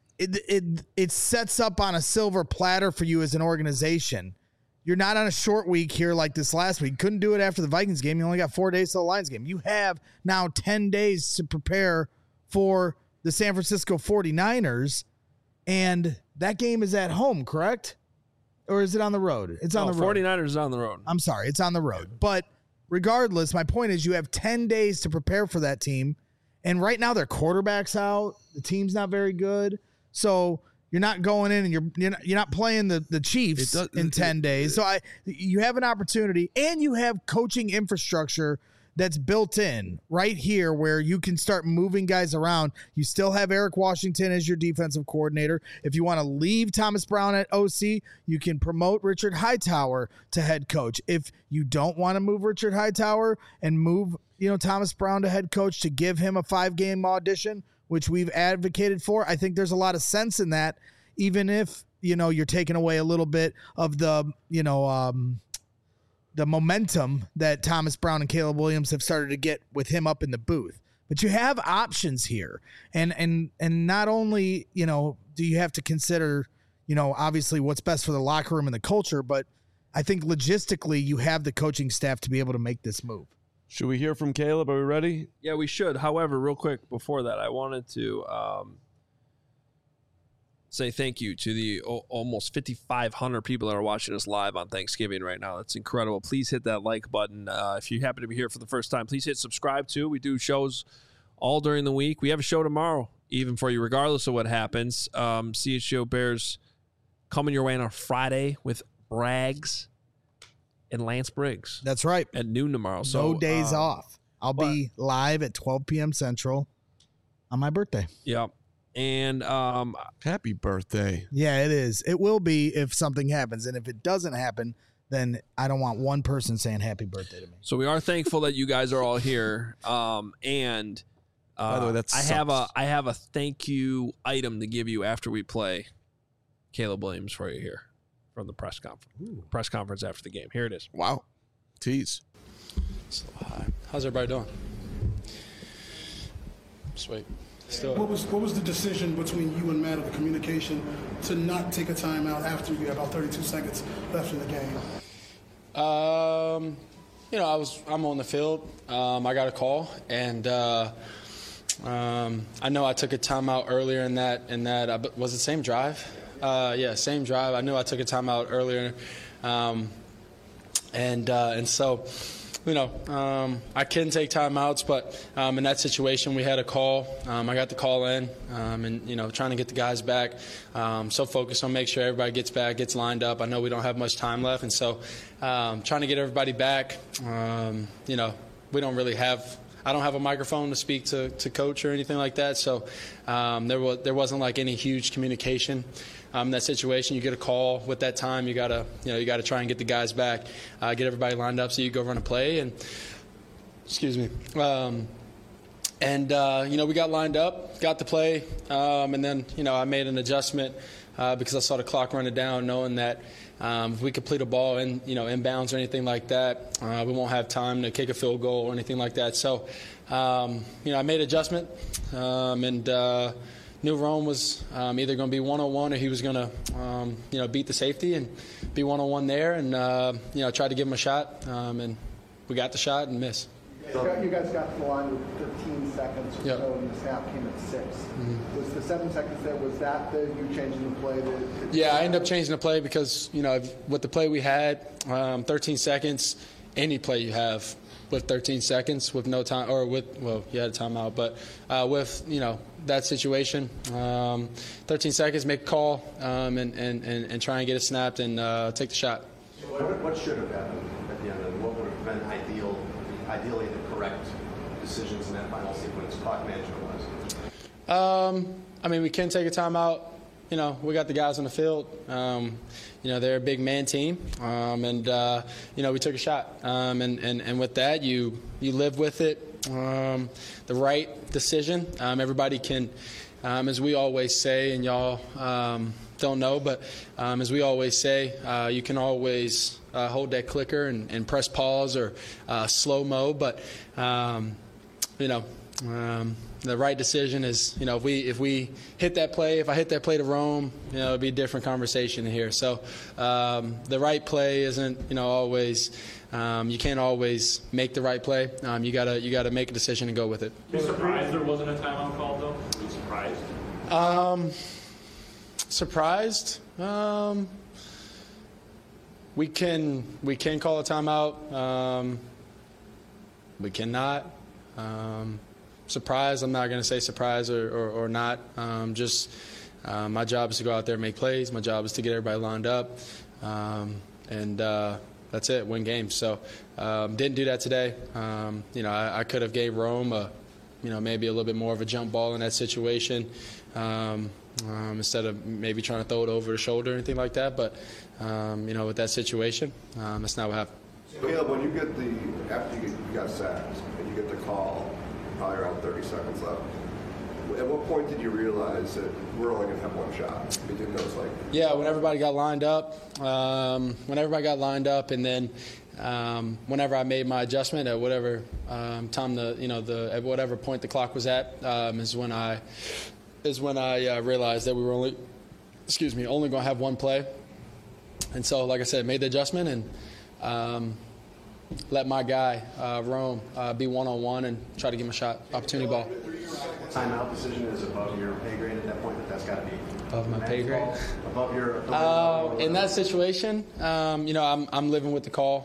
it sets up on a silver platter for you as an organization. You're not on a short week here like this last week. Couldn't do it after the Vikings game. You only got 4 days to the Lions game. You have now 10 days to prepare for the San Francisco 49ers, and that game is at home, correct? Or is it on the road? It's on the road. 49ers is on the road. I'm sorry, it's on the road. But regardless, my point is you have 10 days to prepare for that team, and right now their quarterback's out. The team's not very good. So you're not going in and you're not playing the Chiefs in 10 days. So you have an opportunity, and you have coaching infrastructure that's built in right here where you can start moving guys around. You still have Eric Washington as your defensive coordinator. If you want to leave Thomas Brown at OC, you can promote Richard Hightower to head coach. If you don't want to move Richard Hightower and move, Thomas Brown to head coach to give him a 5-game audition, which we've advocated for, I think there's a lot of sense in that, even if, you're taking away a little bit of the momentum that Thomas Brown and Caleb Williams have started to get with him up in the booth. But you have options here. And not only, do you have to consider, obviously what's best for the locker room and the culture, but I think logistically you have the coaching staff to be able to make this move. Should we hear from Caleb? Are we ready? Yeah, we should. However, real quick before that, I wanted to say thank you to the almost 5,500 people that are watching us live on Thanksgiving right now. That's incredible. Please hit that like button. If you happen to be here for the first time, please hit subscribe too. We do shows all during the week. We have a show tomorrow, even for you, regardless of what happens. CHGO Bears coming your way on a Friday with Braggs and Lance Briggs. That's right. At noon tomorrow. So no days off. I'll be live at 12 p.m. Central on my birthday. Yep. And happy birthday. Yeah, it is. It will be if something happens. And if it doesn't happen, then I don't want one person saying happy birthday to me. So we are thankful that you guys are all here. And by the way, I have a thank you item to give you after we play Caleb Williams for you here from the press conference. Press conference after the game. Here it is. Wow. Tease. So, how's everybody doing? Sweet. What was the decision between you and Matt of the communication to not take a timeout after you had about 32 seconds left in the game? I'm on the field. I got a call, and I know I took a timeout earlier in that. Was it same drive? Same drive. I knew I took a timeout earlier, and so. I can take timeouts, but in that situation, we had a call. I got the call in, and trying to get the guys back. So focused on make sure everybody gets back, gets lined up. I know we don't have much time left, and so trying to get everybody back. We don't really have. I don't have a microphone to speak to coach or anything like that, so there wasn't like any huge communication. In that situation, you get a call with that time. You gotta try and get the guys back, get everybody lined up so you go run a play. And excuse me. We got lined up, got the play, and then I made an adjustment because I saw the clock running down, knowing that if we complete a ball in inbounds or anything like that, we won't have time to kick a field goal or anything like that. So I made an adjustment, and. Knew Rome was either going to be one-on-one or he was going to, beat the safety and be one-on-one there, and tried to give him a shot, and we got the shot and missed. You guys got to the line with 15 seconds or so, and the snap came at 6. Mm-hmm. Was the 7 seconds there? Was that you changing the play? I ended up changing the play because with the play we had, 13 seconds, any play you have. With 13 seconds, with no time, or you had a timeout, but with that situation, 13 seconds, make a call, and try and get it snapped and take the shot. What should have happened at the end, and what would have been ideally the correct decisions in that final sequence, clock management-wise? We can take a timeout. We got the guys on the field. They're a big man team, and we took a shot. And with that, you live with it. The right decision. Everybody can, as we always say, and y'all don't know, but as we always say, you can always hold that clicker and press pause or slow mo. But the right decision is, if we hit that play, if I hit that play to Rome, it'd be a different conversation here. So the right play isn't, always. You can't always make the right play. You gotta make a decision and go with it. Are you surprised there wasn't a timeout called though? Are you surprised? Surprised? We can call a timeout. We cannot. Surprise, I'm not going to say surprise or not. My job is to go out there and make plays. My job is to get everybody lined up. And that's it, win games. So didn't do that today. I could have gave Rome maybe a little bit more of a jump ball in that situation instead of maybe trying to throw it over the shoulder or anything like that. But, with that situation, that's not what happened. Caleb, when you get after you got sacked and you get the call, probably around 30 seconds left, at what point did you realize that we're only going to have one shot? You didn't know it's like... Yeah, when everybody got lined up. And then whenever I made my adjustment at whatever time at whatever point the clock was at, is when I realized that we were only going to have one play. And so, like I said, made the adjustment and let my guy, Rome, be one-on-one and try to give him a shot, opportunity ball. Timeout decision is above your pay grade at that point, but that's got to be above my pay grade. Above your. In that situation, I'm living with the call.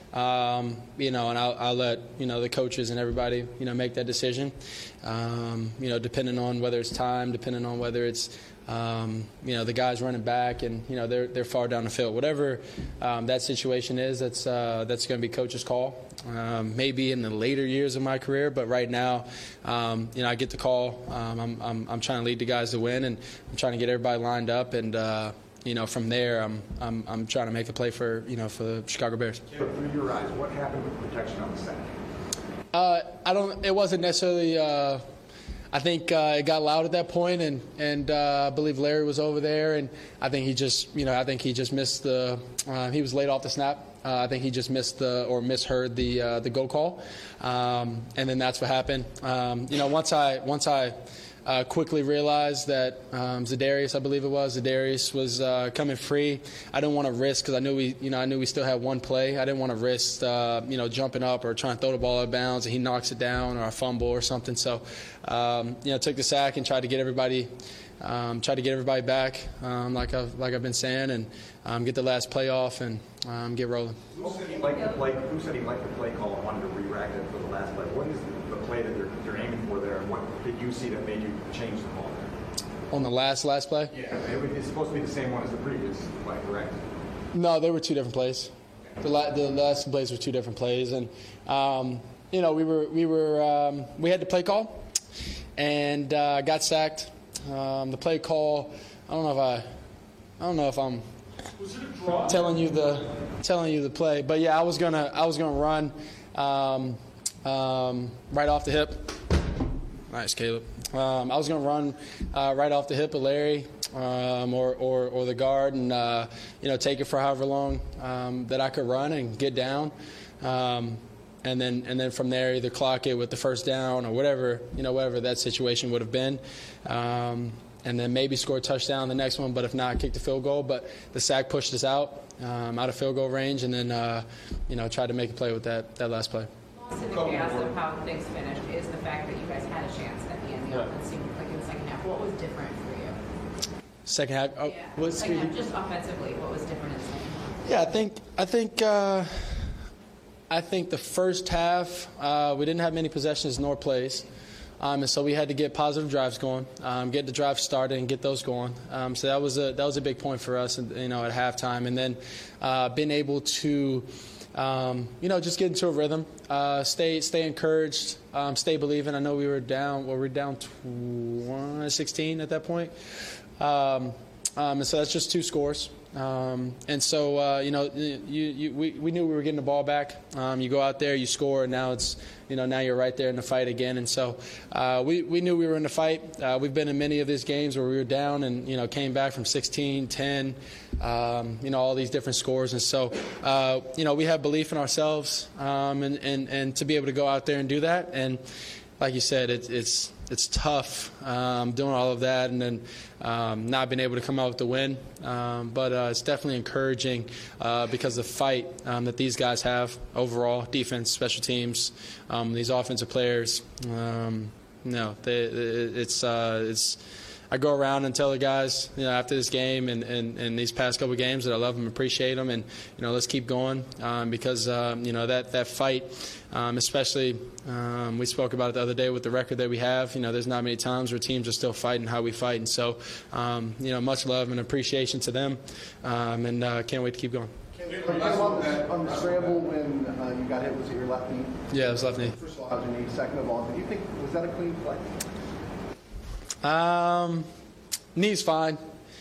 You know, and I'll let, you know, the coaches and everybody, you know, make that decision, you know, depending on whether it's time, depending on whether it's, you know, the guys running back and, you know, they're far down the field. Whatever that situation is, that's going to be coach's call. Maybe in the later years of my career, but right now, you know, I get the call. I'm trying to lead the guys to win, and I'm trying to get everybody lined up, and you know, from there, I'm trying to make a play for, you know, for the Chicago Bears. Through your eyes, what happened with the protection on the sack? It wasn't necessarily. I think it got loud at that point, and I believe Larry was over there, and I think he just missed the. He was late off the snap. I think he just misheard the go call, and then that's what happened. You know, once I quickly realized that Zadarius, I believe it was, was coming free. I didn't want to risk, because I knew we still had one play. I didn't want to risk, you know, jumping up or trying to throw the ball out of bounds and he knocks it down or a fumble or something. So, you know, took the sack and tried to get everybody back, like I've been saying, and get the last play off and get rolling. Who said he liked the play call and wanted to re-rack it for the last play? What is the play that you're aiming for there, and what did you see that made you change the call there? On the last play? Yeah, it's supposed to be the same one as the previous play, correct? No, they were two different plays. The last plays were two different plays, and you know, we had the play call and got sacked. The play call, I don't know if I'm telling you the play, but yeah, I was gonna run right off the hip. Nice, Caleb. I was gonna run right off the hip of Larry or the guard, and you know, take it for however long that I could run and get down. And then from there, either clock it with the first down or whatever that situation would have been, and then maybe score a touchdown the next one. But if not, kick the field goal. But the sack pushed us out of field goal range, and then you know, tried to make a play with that last play. Lost in the chaos of how things finished is the fact that you guys had a chance at the end. The offense seemed like in the second half. What was different for you? Second half. Oh, yeah. Second half, just offensively, what was different in the second half? Yeah, I think the first half, we didn't have many possessions nor plays. And so we had to get positive drives going, get the drive started and get those going. So that was a big point for us, you know, at halftime. And then being able to, you know, just get into a rhythm, stay encouraged, stay believing. I know we were down 16 at that point. And so that's just two scores. And so, you know, we knew we were getting the ball back. You go out there, you score, and now it's, you know, now you're right there in the fight again. And so we knew we were in the fight. We've been in many of these games where we were down and, you know, came back from 16, 10, you know, all these different scores. And so, you know, we have belief in ourselves, and to be able to go out there and do that. And like you said, it's tough doing all of that and then not being able to come out with the win. But it's definitely encouraging because of the fight that these guys have overall, defense, special teams, these offensive players. It's I go around and tell the guys, you know, after this game and these past couple of games that I love them, appreciate them, and, you know, let's keep going because, you know, that fight, especially we spoke about it the other day with the record that we have. You know, there's not many times where teams are still fighting how we fight. And so, you know, much love and appreciation to them, and can't wait to keep going. On the scramble when you got hit, was it your left knee? Yeah, it was left knee. First of all, how's your knee? Second of all, do you think, was that a clean play? Knee's fine.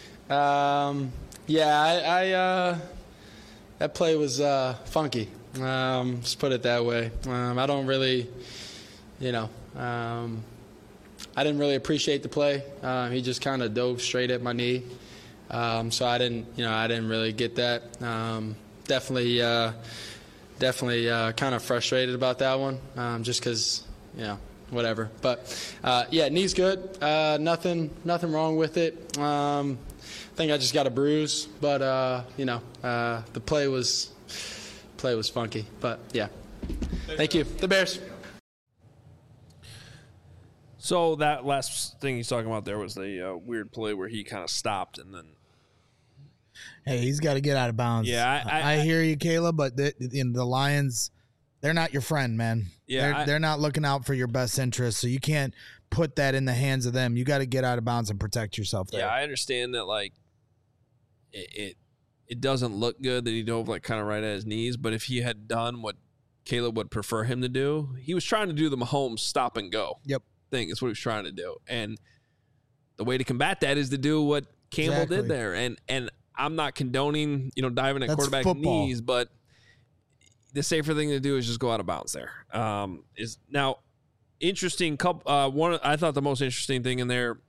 Yeah, that play was funky. Just put it that way. I don't really, you know, I didn't really appreciate the play. He just kind of dove straight at my knee. So I didn't really get that. Definitely kind of frustrated about that one, just because, you know, whatever. But yeah, knee's good. Nothing wrong with it. I think I just got a bruise, but you know, the play was funky. But yeah, thank you. The Bears. So that last thing he's talking about there was the weird play where he kind of stopped and then Hey, he's got to get out of bounds. Yeah, I hear you, Caleb, but the Lions, they're not your friend, man. Yeah, they're not looking out for your best interest, so you can't put that in the hands of them. You got to get out of bounds and protect yourself there. Yeah, I understand that, like, it doesn't look good that he dove, like, kind of right at his knees, but if he had done what Caleb would prefer him to do, he was trying to do the Mahomes stop and go thing. Is what he was trying to do. And the way to combat that is to do what Campbell did there. And I'm not condoning, diving at quarterback knees, but the safer thing to do is just go out of bounds there. Is now interesting. I thought the most interesting thing in there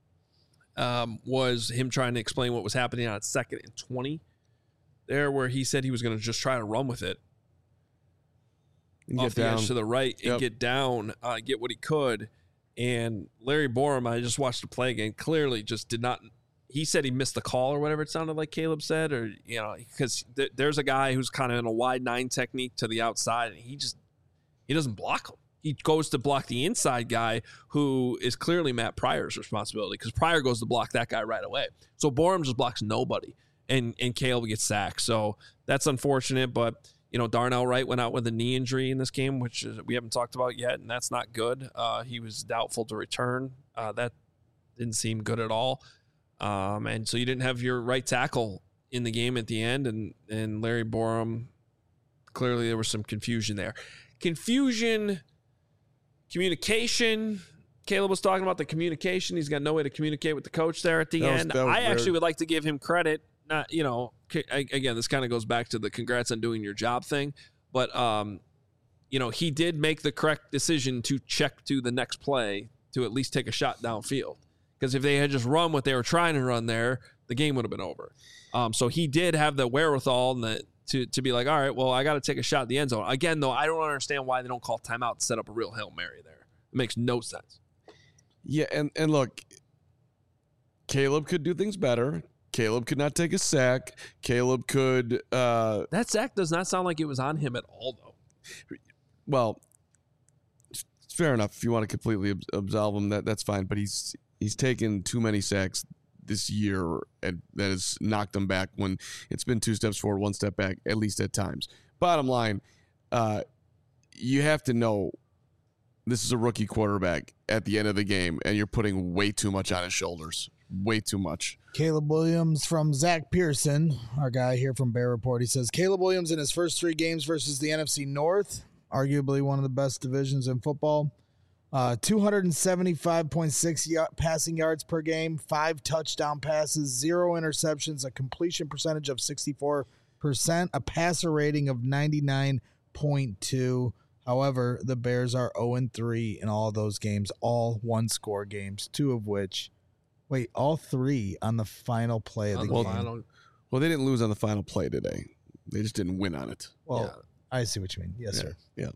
was him trying to explain what was happening on 2nd and 20 there, where he said he was going to just try to run with it and off the edge to the right and get down, get what he could. And Larry Borum, I just watched the play again, clearly just did not. He said he missed the call or whatever it sounded like Caleb said, or, because there's a guy who's kind of in a wide 9 technique to the outside, and he doesn't block him. He goes to block the inside guy, who is clearly Matt Pryor's responsibility, because Pryor goes to block that guy right away. So Borum just blocks nobody, and Caleb gets sacked. So that's unfortunate, but Darnell Wright went out with a knee injury in this game, which we haven't talked about yet, and that's not good. He was doubtful to return. That didn't seem good at all. And so you didn't have your right tackle in the game at the end, and Larry Borum, clearly there was some confusion there. Communication. Caleb was talking about the communication. He's got no way to communicate with the coach there at the end. I actually would like to give him credit. Not, again, this kind of goes back to the congrats on doing your job thing, but he did make the correct decision to check to the next play to at least take a shot downfield. Because if they had just run what they were trying to run there, the game would have been over. So he did have the wherewithal to be like, all right, well, I got to take a shot at the end zone. Again, though, I don't understand why they don't call timeout to set up a real Hail Mary there. It makes no sense. Yeah, and look, Caleb could do things better. Caleb could not take a sack. Caleb could... that sack does not sound like it was on him at all, though. Well, it's fair enough. If you want to completely absolve him, that's fine. But he's taken too many sacks this year, and that has knocked him back when it's been 2 steps forward, 1 step back, at least at times. Bottom line, you have to know this is a rookie quarterback at the end of the game, and you're putting way too much on his shoulders. Way too much. Caleb Williams from Zach Pearson, our guy here from Bear Report. He says, Caleb Williams in his first 3 games versus the NFC North, arguably one of the best divisions in football. 275.6 passing yards per game, 5 touchdown passes, 0 interceptions, a completion percentage of 64%, a passer rating of 99.2. However, the Bears are 0-3 in all those games, all 1-score games, 2 of which... Wait, all 3 on the final play of the game. Well, they didn't lose on the final play today. They just didn't win on it. Well, yeah. I see what you mean. Yes, sir. Yeah.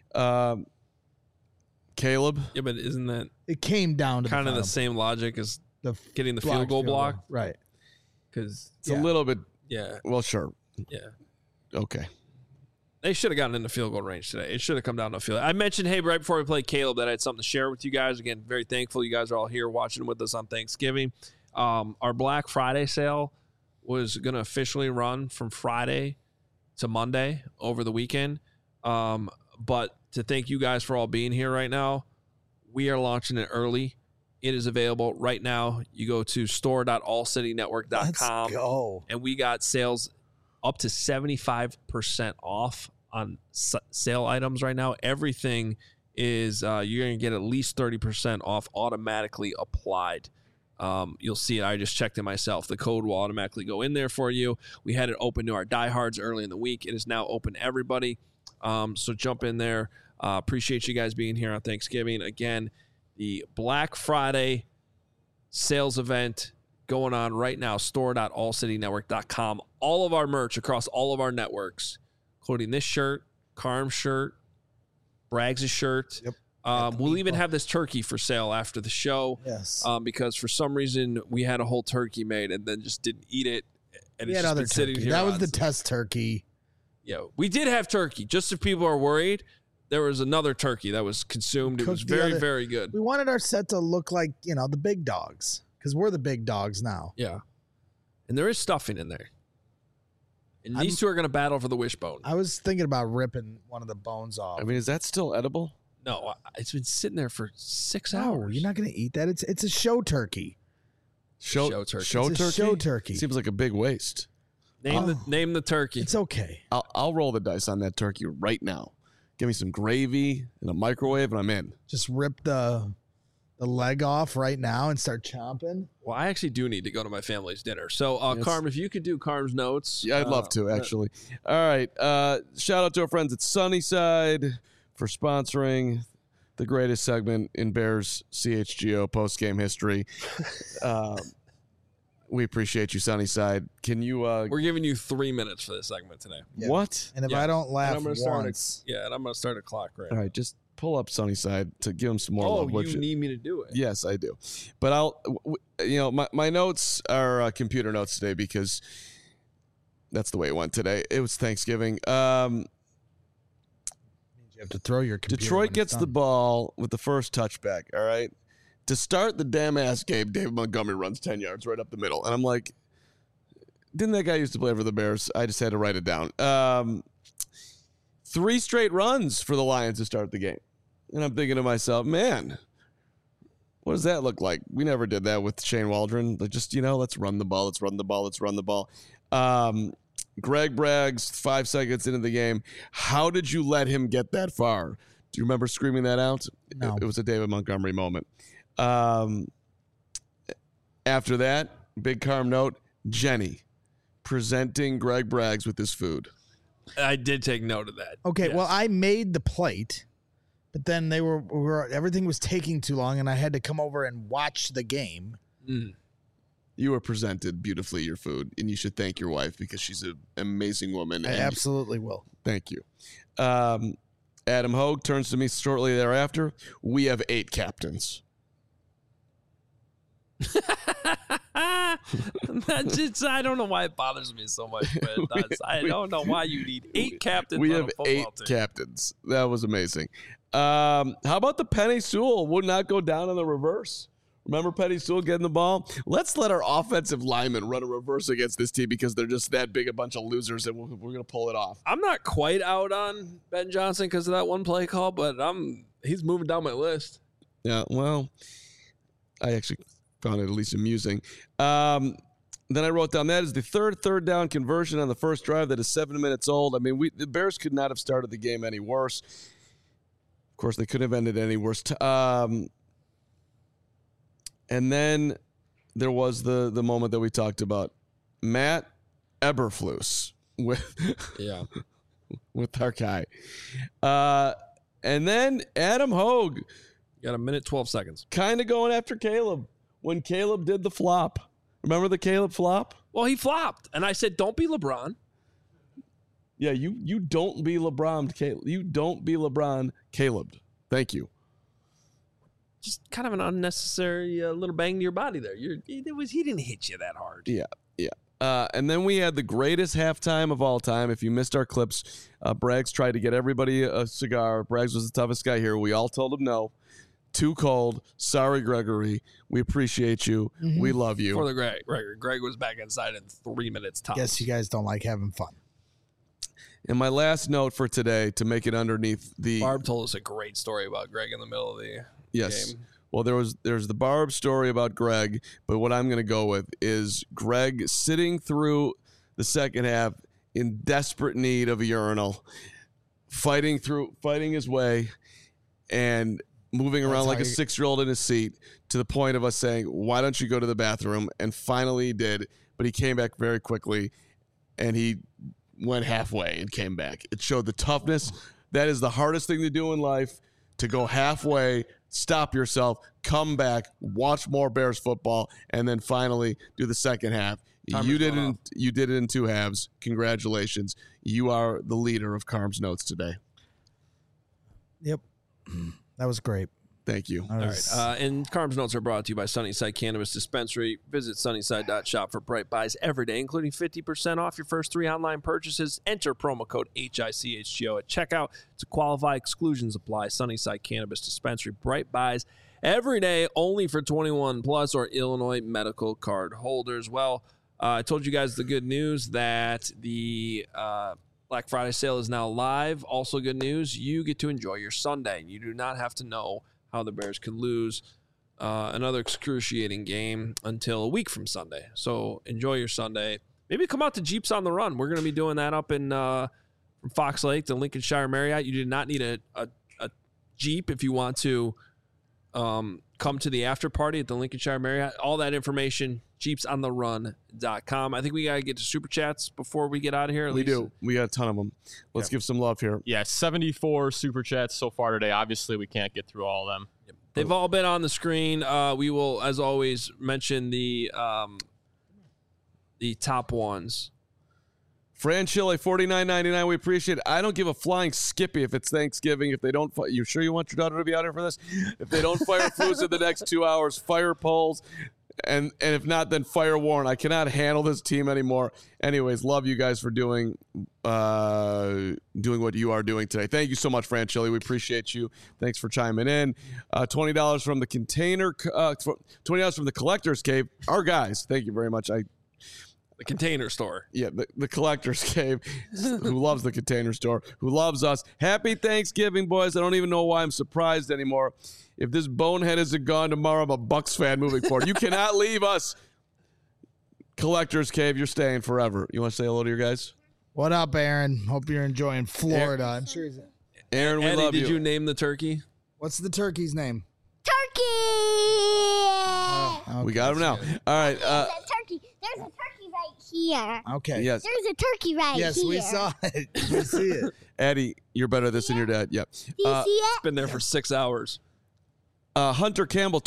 Caleb? Yeah, but isn't that... It came down to kind of the same logic as getting the field goal block? Right. Because it's a little bit... Yeah. Well, sure. Yeah. Okay. They should have gotten in the field goal range today. It should have come down to a field. I mentioned, hey, right before we played Caleb, that I had something to share with you guys. Again, very thankful you guys are all here watching with us on Thanksgiving. Our Black Friday sale was going to officially run from Friday to Monday over the weekend. But to thank you guys for all being here right now, we are launching it early. It is available right now. You go to store.allcitynetwork.com. Let's go. And we got sales up to 75% off on sale items right now. Everything is you're going to get at least 30% off automatically applied. You'll see it. I just checked it myself. The code will automatically go in there for you. We had it open to our diehards early in the week. It is now open to everybody. So jump in there. Appreciate you guys being here on Thanksgiving. Again, the Black Friday sales event going on right now, store.allcitynetwork.com. All of our merch across all of our networks, including this shirt, Carm's shirt, Braggs' shirt. Yep. We'll even have this turkey for sale after the show. Yes. Because for some reason we had a whole turkey made and then just didn't eat it. And we it's had just other been sitting turkey. here. That was the test turkey. Yeah, we did have turkey. Just if people are worried, there was another turkey that was consumed. It was very, very good. We wanted our set to look like, the big dogs, because we're the big dogs now. Yeah. And there is stuffing in there. And these two are going to battle for the wishbone. I was thinking about ripping one of the bones off. I mean, is that still edible? No, it's been sitting there for 6 No, hours. you're not going to eat that. It's a show turkey. Show turkey. Show It's a turkey? show turkey. Seems like a big waste. Name the turkey. It's okay. I'll roll the dice on that turkey right now. Give me some gravy in a microwave, and I'm in. Just rip the leg off right now and start chomping. Well, I actually do need to go to my family's dinner. So, Carm, if you could do Carm's notes. Yeah, I'd love to, actually. All right. Shout out to our friends at Sunnyside for sponsoring the greatest segment in Bears CHGO post-game history. We appreciate you, Sunnyside. Can you... We're giving you 3 minutes for this segment today. Yeah. What? And if I don't laugh and I'm once... and I'm going to start a clock right All right, just pull up Sunnyside to give them some more love. Oh, you need me to do it? Yes, I do. But my notes are computer notes today because that's the way it went today. It was Thanksgiving. You have to throw your computer Detroit when it's gets done. the ball with the first touchback, all right? To start the damn ass game, David Montgomery runs 10 yards right up the middle. And I'm like, didn't that guy used to play for the Bears? I just had to write it down. 3 straight runs for the Lions to start the game. And I'm thinking to myself, man, what does that look like? We never did that with Shane Waldron. Like, just, let's run the ball, let's run the ball, let's run the ball. Greg Braggs, 5 seconds into the game. How did you let him get that far? Do you remember screaming that out? No. It was a David Montgomery moment. After that, big Carm note, Jenny presenting Greg Braggs with his food. I did take note of that. Okay, Yes. well, I made the plate, but then they were everything was taking too long, and I had to come over and watch the game. You were presented beautifully your food, and you should thank your wife because she's an amazing woman. I and absolutely will. Thank you. Adam Hogue turns to me shortly thereafter. We have 8 captains. That's just, I don't know why it bothers me so much, but I don't know why you need 8 captains. We on have a football 8 team. captains. That was amazing. How about the Penny Sewell would not go down in the reverse? Remember Penny Sewell getting the ball? Let's let our offensive linemen run a reverse against this team because they're just that big a bunch of losers, and we're going to pull it off. I'm not quite out on Ben Johnson because of that one play call, but he's moving down my list. Yeah, well, I actually found it at least amusing. Then I wrote down that is the third down conversion on the first drive that is 7 minutes old. I mean, the Bears could not have started the game any worse. Of course, they couldn't have ended any worse. And then there was the moment that we talked about. Matt Eberflus with our guy. And then Adam Hogue. You got a minute, 12 seconds. Kind of going after Caleb when Caleb did the flop. Remember the Caleb flop? Well, he flopped. And I said, don't be LeBron. Yeah, you don't be LeBron, Caleb. You don't be LeBron, Caleb. Thank you. Just kind of an unnecessary little bang to your body there. He didn't hit you that hard. Yeah. And then we had the greatest halftime of all time. If you missed our clips, Braggs tried to get everybody a cigar. Braggs was the toughest guy here. We all told him no. Too cold. Sorry, Gregory. We appreciate you. Mm-hmm. We love you. For the Greg was back inside in 3 minutes tops. Guess you guys don't like having fun. And my last note for today to make it underneath the... Barb told us a great story about Greg in the middle of the game. Well, there's the Barb story about Greg, but what I'm going to go with is Greg sitting through the second half in desperate need of a urinal, fighting his way, and moving around like a 6-year-old in his seat to the point of us saying, why don't you go to the bathroom? And finally he did, but he came back very quickly, and he went halfway and came back. It showed the toughness. That is the hardest thing to do in life, to go halfway, stop yourself, come back, watch more Bears football, and then finally do the second half. You did it in 2 halves. Congratulations. You are the leader of Carm's Notes today. Yep. That was great. Thank you. All right. And Carm's Notes are brought to you by Sunnyside Cannabis Dispensary. Visit sunnyside.shop for bright buys every day, including 50% off your first 3 online purchases. Enter promo code HICHGO at checkout to qualify. Exclusions apply. Sunnyside Cannabis Dispensary. Bright buys every day, only for 21 plus or Illinois medical card holders. Well, I told you guys the good news that the Black Friday sale is now live. Also good news, you get to enjoy your Sunday. You do not have to know how the Bears could lose another excruciating game until a week from Sunday. So enjoy your Sunday. Maybe come out to Jeeps on the Run. We're going to be doing that up in from Fox Lake to Lincolnshire Marriott. You do not need a Jeep if you want to come to the after party at the Lincolnshire Marriott. All that information, jeepsontherun.com. I think we got to get to Super Chats before we get out of here. We do. We got a ton of them. Let's give some love here. Yeah, 74 Super Chats so far today. Obviously, we can't get through all of them. Yep. They've all been on the screen. We will, as always, mention the top ones. Fran Chile, $49.99. We appreciate it. I don't give a flying skippy if it's Thanksgiving. If they don't, you sure you want your daughter to be out here for this? If they don't fire Flus in the next 2 hours, fire Poles. And if not, then fire Warren. I cannot handle this team anymore. Anyways, love you guys for doing what you are doing today. Thank you so much, Fran Chile. We appreciate you. Thanks for chiming in. $20 from the container. $20 from the Collector's Cave. Our guys. Thank you very much. The Container Store. Yeah, the Collector's Cave, who loves the Container Store, who loves us. Happy Thanksgiving, boys. I don't even know why I'm surprised anymore. If this bonehead isn't gone tomorrow, I'm a Bucks fan moving forward. You cannot leave us. Collector's Cave, you're staying forever. You want to say hello to your guys? What up, Aaron? Hope you're enjoying Florida. I'm sure he's... Aaron, we Eddie, love you. Did you name the turkey? What's the turkey's name? Turkey! Okay. We got him now. All right. There's a turkey right here. Okay. Yes. There's a turkey right here. Yes, we saw it. We see it. Eddie, you're better at this than your dad. Yep. Do you see it? It's been there for 6 hours. Hunter Campbell,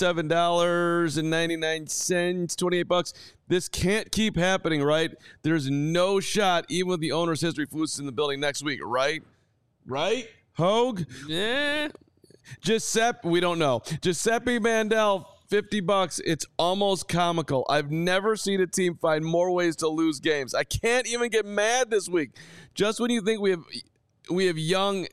$27.99, 28 bucks. This can't keep happening, right? There's no shot, even with the owner's history, Flus in the building next week, right? Right? Hogue? Yeah. Giuseppe, we don't know. Giuseppe Mandel, $50. It's almost comical. I've never seen a team find more ways to lose games. I can't even get mad this week. Just when you think we have young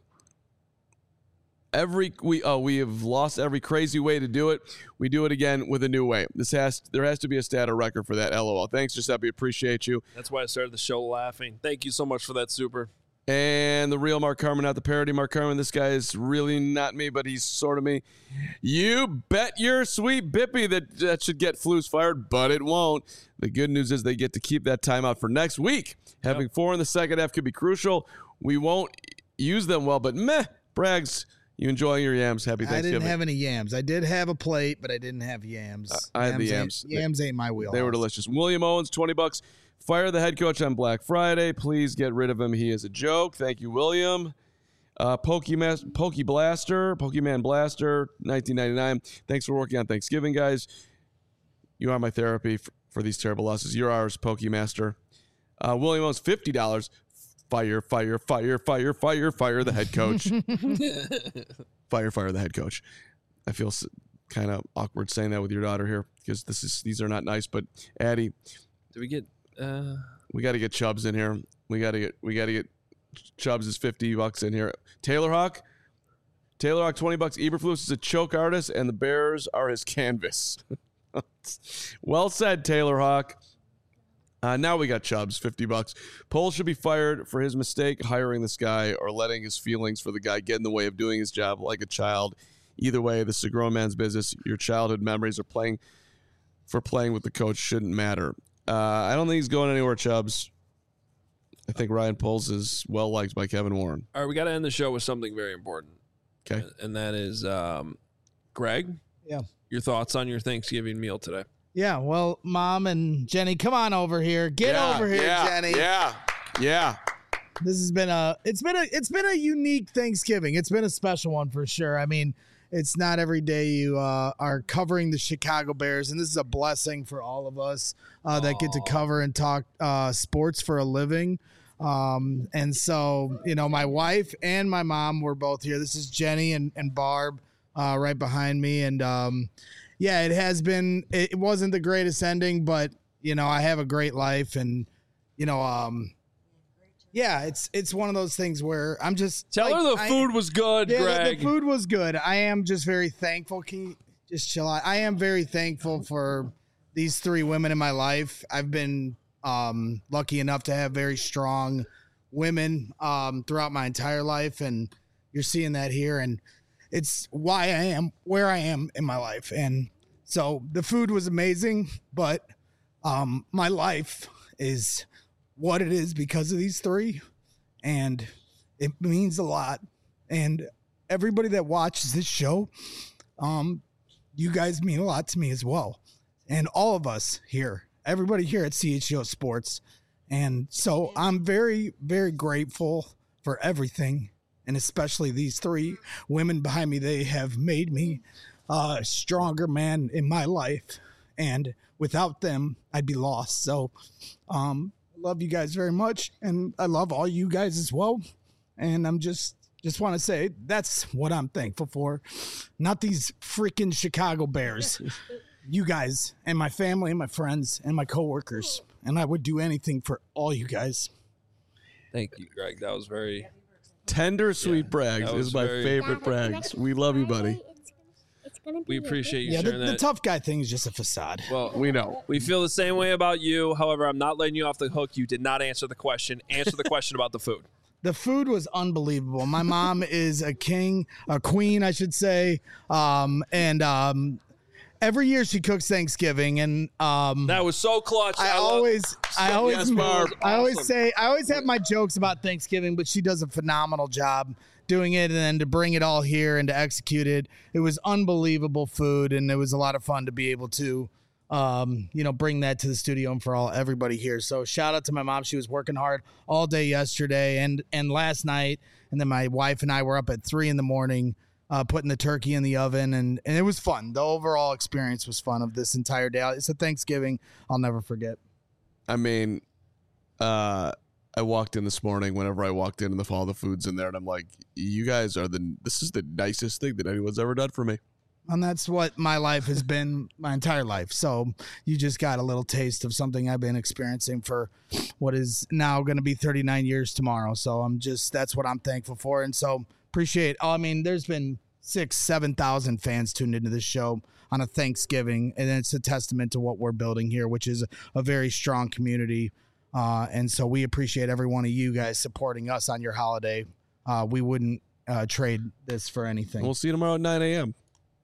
we have lost every crazy way to do it. We do it again with a new way. There has to be a stat or record for that. LOL. Thanks, Giuseppe. Appreciate you. That's why I started the show laughing. Thank you so much for that, Super. And the real Mark Carmen, not the parody Mark Carmen. This guy is really not me, but he's sort of me. You bet your sweet bippy that should get Flus fired, but it won't. The good news is they get to keep that timeout for next week. Having 4 in the second half could be crucial. We won't use them well, but meh, Braggs. You enjoy your yams. Happy Thanksgiving. I didn't have any yams. I did have a plate, but I didn't have yams. I had the yams. Yams ain't my wheelhouse. They were delicious. William Owens, $20. Fire the head coach on Black Friday. Please get rid of him. He is a joke. Thank you, William. Pokemon Blaster, $19.99. Thanks for working on Thanksgiving, guys. You are my therapy for these terrible losses. You're ours, Pokemaster. William Owens, $50. Fire the head coach. Fire the head coach. I feel kind of awkward saying that with your daughter here because these are not nice. But Addie, do we get? We got to get Chubbs in here. We got to get Chubbs is $50 in here. Taylor Hawk, $20. Eberflus is a choke artist, and the Bears are his canvas. Well said, Taylor Hawk. Now we got Chubbs, $50. Poles should be fired for his mistake with this guy or letting his feelings for the guy get in the way of doing his job like a child. Either way, this is a grown man's business. Your childhood memories of playing with the coach shouldn't matter. I don't think he's going anywhere, Chubbs. I think Ryan Poles is well liked by Kevin Warren. All right, we got to end the show with something very important. Okay. And that is, Greg. Yeah. Your thoughts on your Thanksgiving meal today? Yeah, well, Mom and Jenny, come on over here. Get over here, Jenny. Yeah. This has been it's been a unique Thanksgiving. It's been a special one for sure. I mean, it's not every day you are covering the Chicago Bears, and this is a blessing for all of us that get to cover and talk sports for a living. And so, my wife and my mom were both here. This is Jenny and Barb right behind me, and yeah, it wasn't the greatest ending, but, I have a great life and, yeah, it's one of those things where I'm just tell her the food was good, Greg. The food was good. I am just very thankful. Can you just chill out? I am very thankful for these three women in my life. I've been lucky enough to have very strong women throughout my entire life, and you're seeing that here, and it's why I am where I am in my life. And so the food was amazing, but my life is what it is because of these three, and it means a lot. And everybody that watches this show, you guys mean a lot to me as well. And all of us here, everybody here at CHGO Sports. And so I'm very, very grateful for everything, and especially these three women behind me. They have made me a stronger man in my life, and without them, I'd be lost. So I love you guys very much, and I love all you guys as well. And I'm just want to say that's what I'm thankful for, not these freaking Chicago Bears. You guys and my family and my friends and my coworkers, and I would do anything for all you guys. Thank you, Greg. That was very tender, sweet brags that is was my very- favorite brags. We love you, buddy. We appreciate you Yeah, sharing the that. tough guy thing is just a facade. Well, we know. We feel the same way about you. However, I'm not letting you off the hook. You did not answer the question. Answer the question about the food. The food was unbelievable. My mom is a queen, I should say. Every year she cooks Thanksgiving, and that was so clutch. I always awesome. say I always have my jokes about Thanksgiving, but she does a phenomenal job doing it, and then to bring it all here and to execute it. It was unbelievable food, and it was a lot of fun to be able to bring that to the studio and for everybody here. So shout out to my mom. She was working hard all day yesterday and last night. And then my wife and I were up at 3 a.m, putting the turkey in the oven, and it was fun. The overall experience was fun of this entire day. It's a Thanksgiving I'll never forget. I mean, I walked in this morning. Whenever I walked in and all the food's in there, and I'm like, you guys are this is the nicest thing that anyone's ever done for me. And that's what my life has been my entire life. So you just got a little taste of something I've been experiencing for what is now going to be 39 years tomorrow. So that's what I'm thankful for. And so appreciate, there's been 6,000-7,000 fans tuned into this show on a Thanksgiving. And it's a testament to what we're building here, which is a very strong community. And so we appreciate every one of you guys supporting us on your holiday. We wouldn't trade this for anything. We'll see you tomorrow at 9 a.m.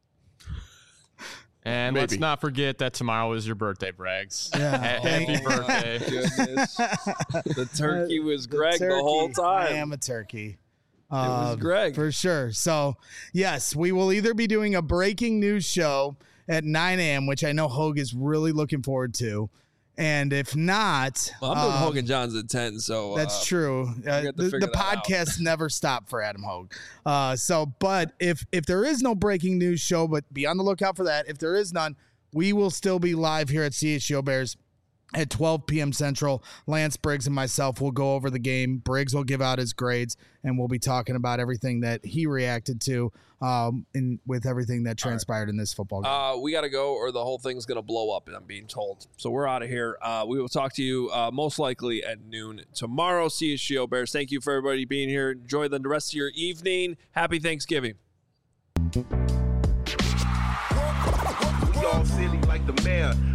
And Maybe. let's not forget that tomorrow is your birthday, Brags. Yeah. Happy birthday. Goodness. The turkey was Greg the turkey. whole I time. am a turkey. It was Greg. For sure. So, yes, we will either be doing a breaking news show at 9 a.m., which I know Hogue is really looking forward to. And if not... Well, I'm doing Hogan Johns at 10, so... That's true. The podcast never stopped for Adam Hogue. But if there is no breaking news show, but be on the lookout for that. If there is none, we will still be live here at CHGO Bears at 12 p.m. Central. Lance Briggs and myself will go over the game. Briggs will give out his grades, and we'll be talking about everything that he reacted to with everything that transpired in this football game. We got to go, or the whole thing's going to blow up, I'm being told. So we're out of here. We will talk to you most likely at noon tomorrow. CHGO Bears, thank you for everybody being here. Enjoy the rest of your evening. Happy Thanksgiving. Y'all silly like the mayor.